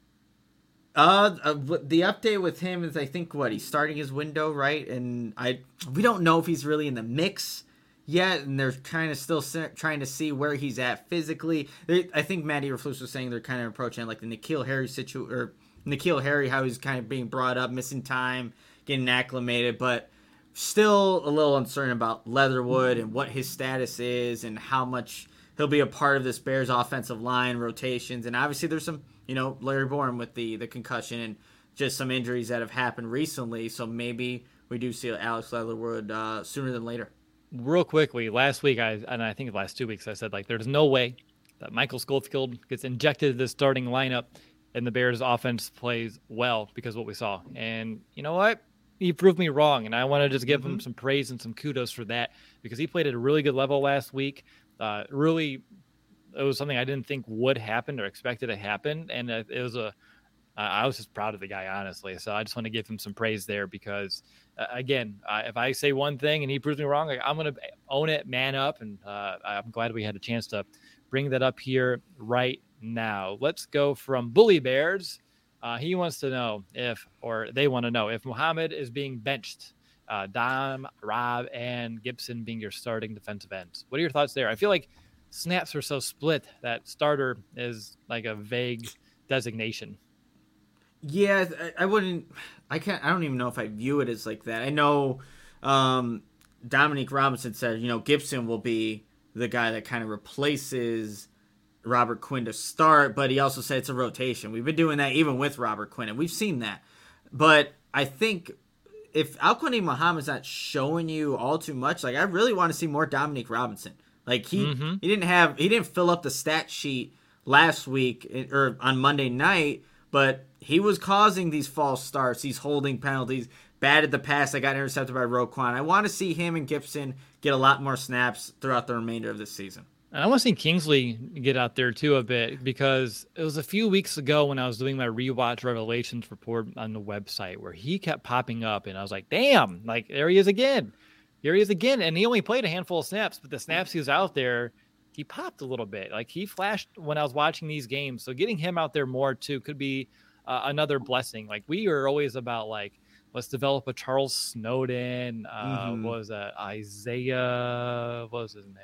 Uh, uh, the update with him is, I think, what, he's starting his window, right? And I, we don't know if he's really in the mix yet, and they're kind of still trying to see where he's at physically. They, I think Matt Eberflus was saying they're kind of approaching like the N'Keal Harry situation, or N'Keal Harry, how he's kind of being brought up, missing time, getting acclimated, but still a little uncertain about Leatherwood and what his status is and how much he'll be a part of this Bears offensive line rotations. And obviously there's some, you know, Larry Bourne with the, the concussion and just some injuries that have happened recently. So maybe we do see Alex Leatherwood uh, sooner than later.
Real quickly, last week, I and I think the last two weeks, I said, like, there's no way that Michael Schofield gets injected into the starting lineup and the Bears offense plays well because of what we saw. And you know what? He proved me wrong, and I want to just give mm-hmm. him some praise and some kudos for that because he played at a really good level last week. Uh, really, it was something I didn't think would happen or expected to happen, and it was a. Uh, I was just proud of the guy, honestly. So I just want to give him some praise there because, uh, again, uh, if I say one thing and he proves me wrong, like, I'm going to own it, man up, and uh, I'm glad we had a chance to bring that up here right now. Let's go from Bully Bears. Uh, he wants to know if, or they want to know if Muhammad is being benched. Uh, Dom, Rob, and Gibson being your starting defensive ends. What are your thoughts there? I feel like snaps are so split that starter is like a vague designation.
Yeah, I, I wouldn't. I can't. I don't even know if I view it as like that. I know um, Dominique Robinson said, you know, Gibson will be the guy that kind of replaces Robert Quinn to start, but he also said it's a rotation. We've been doing that even with Robert Quinn, and we've seen that. But I think if Al-Quadin Muhammad's not showing you all too much, like I really want to see more Dominique Robinson. Like he mm-hmm. he didn't have he didn't fill up the stat sheet last week or on Monday night, but he was causing these false starts, these holding penalties, batted the pass that got intercepted by Roquan. I want to see him and Gibson get a lot more snaps throughout the remainder of this season.
And I want to see Kingsley get out there too a bit because it was a few weeks ago when I was doing my rewatch revelations report on the website where he kept popping up and I was like, damn, like there he is again. Here he is again. And he only played a handful of snaps, but the snaps he was out there, he popped a little bit. Like he flashed when I was watching these games. So getting him out there more too could be uh, another blessing. Like we are always about like, let's develop a Charles Snowden. Uh, mm-hmm. What was that? Isaiah, what was his name?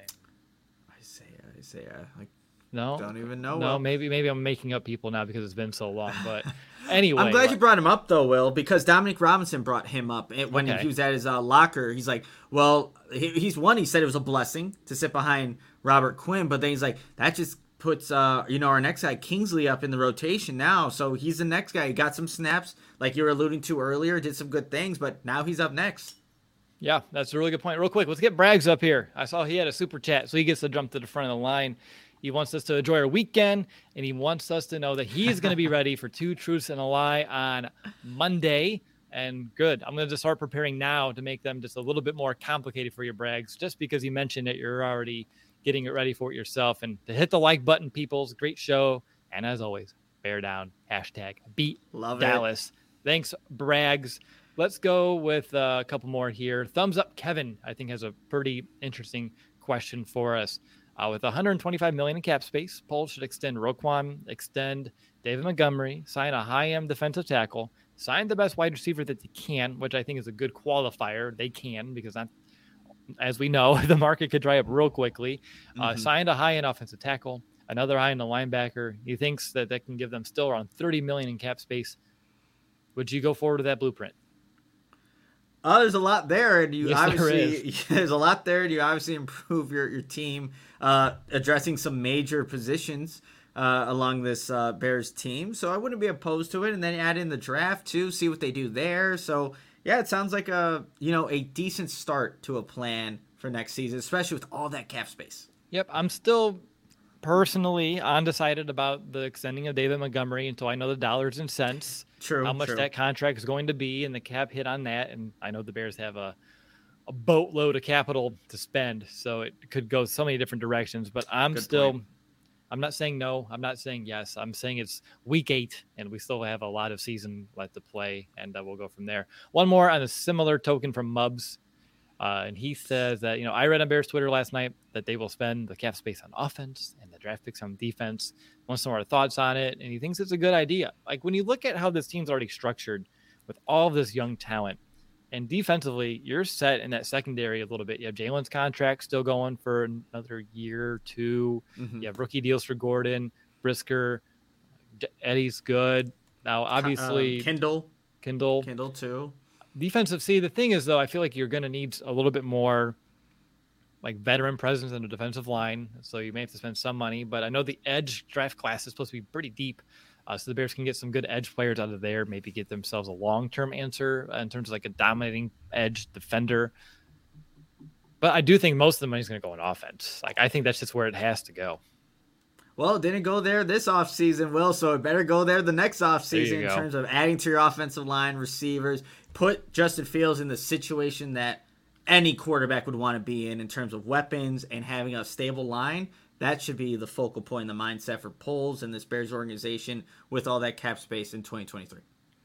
Isaiah, like no, don't even know.
No,
Will.
maybe maybe I'm making up people now because it's been so long. But anyway,
I'm glad like, you brought him up though, Will, because Dominique Robinson brought him up when okay. he was at his uh, locker. He's like, well, he, he's one. He said it was a blessing to sit behind Robert Quinn, but then he's like, that just puts uh you know our next guy Kingsley up in the rotation now, so he's the next guy. He got some snaps, like you were alluding to earlier, did some good things, but now he's up next.
Yeah, that's a really good point. Real quick, let's get Braggs up here. I saw he had a super chat, so he gets to jump to the front of the line. He wants us to enjoy our weekend, and he wants us to know that he's going to be ready for Two Truths and a Lie on Monday. And good. I'm going to just start preparing now to make them just a little bit more complicated for you, Braggs, just because you mentioned it, you're already getting it ready for it yourself. And to hit the like button, peoples, great show. And as always, bear down, hashtag beat
Love
Dallas.
It.
Thanks, Braggs. let's go with uh, a couple more here. Thumbs up Kevin, I think, has a pretty interesting question for us. Uh, with one hundred twenty-five million dollars in cap space, Poles should extend Roquan, extend David Montgomery, sign a high-end defensive tackle, sign the best wide receiver that they can, which I think is a good qualifier. They can, because not, as we know, the market could dry up real quickly. Uh, mm-hmm. Signed a high-end offensive tackle, another high-end linebacker. He thinks that that can give them still around thirty million dollars in cap space. Would you go forward with that blueprint?
Oh, there's a lot there, and you
yes,
obviously there there's a lot there, and you obviously improve your your team, uh, addressing some major positions uh, along this uh, Bears team. So I wouldn't be opposed to it, and then add in the draft too, see what they do there. So yeah, it sounds like a you know a decent start to a plan for next season, especially with all that cap space.
Yep, I'm still personally undecided about the extending of David Montgomery until I know the dollars and cents.
True.
How much
true.
that contract is going to be and the cap hit on that. And I know the Bears have a, a boatload of capital to spend, so it could go so many different directions. But I'm Good still, point. I'm not saying no. I'm not saying yes. I'm saying it's week eight, and we still have a lot of season left to play, and uh, we'll go from there. One more on a similar token from Mubs. Uh, and he says that, you know, I read on Bears Twitter last night that they will spend the cap space on offense and the draft picks on defense. Wants some more thoughts on it. And he thinks it's a good idea. Like, when you look at how this team's already structured with all of this young talent, and defensively, you're set in that secondary a little bit. You have Jalen's contract still going for another year or two. Mm-hmm. You have rookie deals for Gordon, Brisker, Eddie's good. Now, obviously,
uh, Kindle.
Kindle.
Kindle, too.
Defensive. See, the thing is, though, I feel like you're going to need a little bit more like veteran presence in the defensive line. So you may have to spend some money, but I know the edge draft class is supposed to be pretty deep. Uh, so the Bears can get some good edge players out of there, maybe get themselves a long-term answer in terms of like a dominating edge defender. But I do think most of the money is going to go in offense. Like, I think that's just where it has to go.
Well, it didn't go there this offseason, Will, so it better go there the next offseason in terms of adding to your offensive line, receivers. Put Justin Fields in the situation that any quarterback would want to be in in terms of weapons and having a stable line. That should be the focal point, the mindset for Poles and this Bears organization with all that cap space in twenty twenty-three.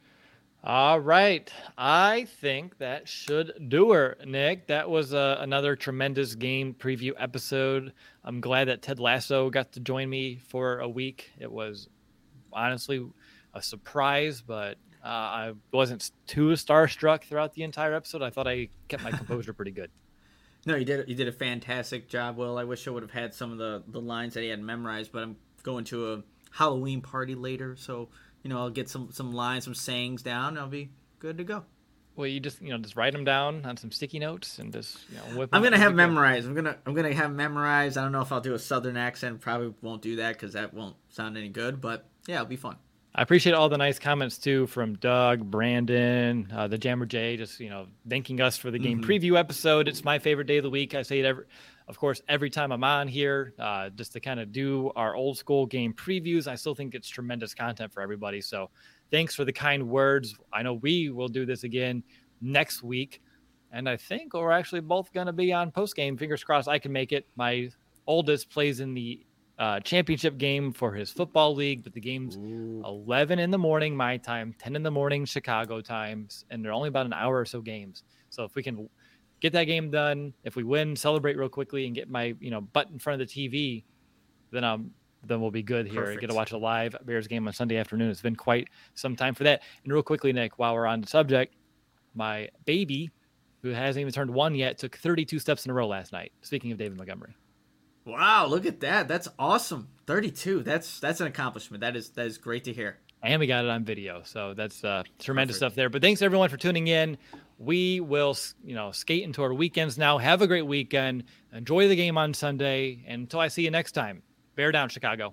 All right. I think that should do her, Nick. That was uh, another tremendous game preview episode. I'm glad that Ted Lasso got to join me for a week. It was honestly a surprise, but uh, I wasn't too starstruck throughout the entire episode. I thought I kept my composure pretty good.
No, you did. You did a fantastic job, Will. I wish I would have had some of the, the lines that he had memorized, but I'm going to a Halloween party later, so you know I'll get some, some lines, some sayings down, and I'll be good to go.
Well, you just you know just write them down on some sticky notes and just you know whip.
I'm gonna have memorized. I'm gonna I'm gonna have memorized. I don't know if I'll do a Southern accent. Probably won't do that because that won't sound any good. But yeah, it'll be fun.
I appreciate all the nice comments too from Doug, Brandon, uh, the Jammer J, just you know thanking us for the game mm-hmm. preview episode. It's my favorite day of the week. I say it every, of course, every time I'm on here, uh, just to kind of do our old school game previews. I still think it's tremendous content for everybody. So thanks for the kind words. I know we will do this again next week, and I think we're actually both going to be on post game. Fingers crossed I can make it. My oldest plays in the Uh, championship game for his football league, but the game's Ooh. eleven in the morning my time, ten in the morning Chicago times, and they're only about an hour or so games. So if we can get that game done, if we win, celebrate real quickly, and get my you know butt in front of the T V, then um then we'll be good here. Perfect. I get to watch a live Bears game on Sunday afternoon. It's been quite some time for that. And real quickly, Nick, while we're on the subject, my baby, who hasn't even turned one yet, took thirty-two steps in a row last night. Speaking of David Montgomery.
Wow, look at that. That's awesome. thirty-two. That's that's an accomplishment. That is that is great to hear.
And we got it on video. So that's uh, tremendous Perfect. Stuff there. But thanks everyone for tuning in. We will, you know, skate into our weekends now. Have a great weekend. Enjoy the game on Sunday. And until I see you next time, bear down, Chicago.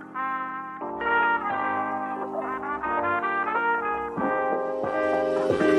Thank you.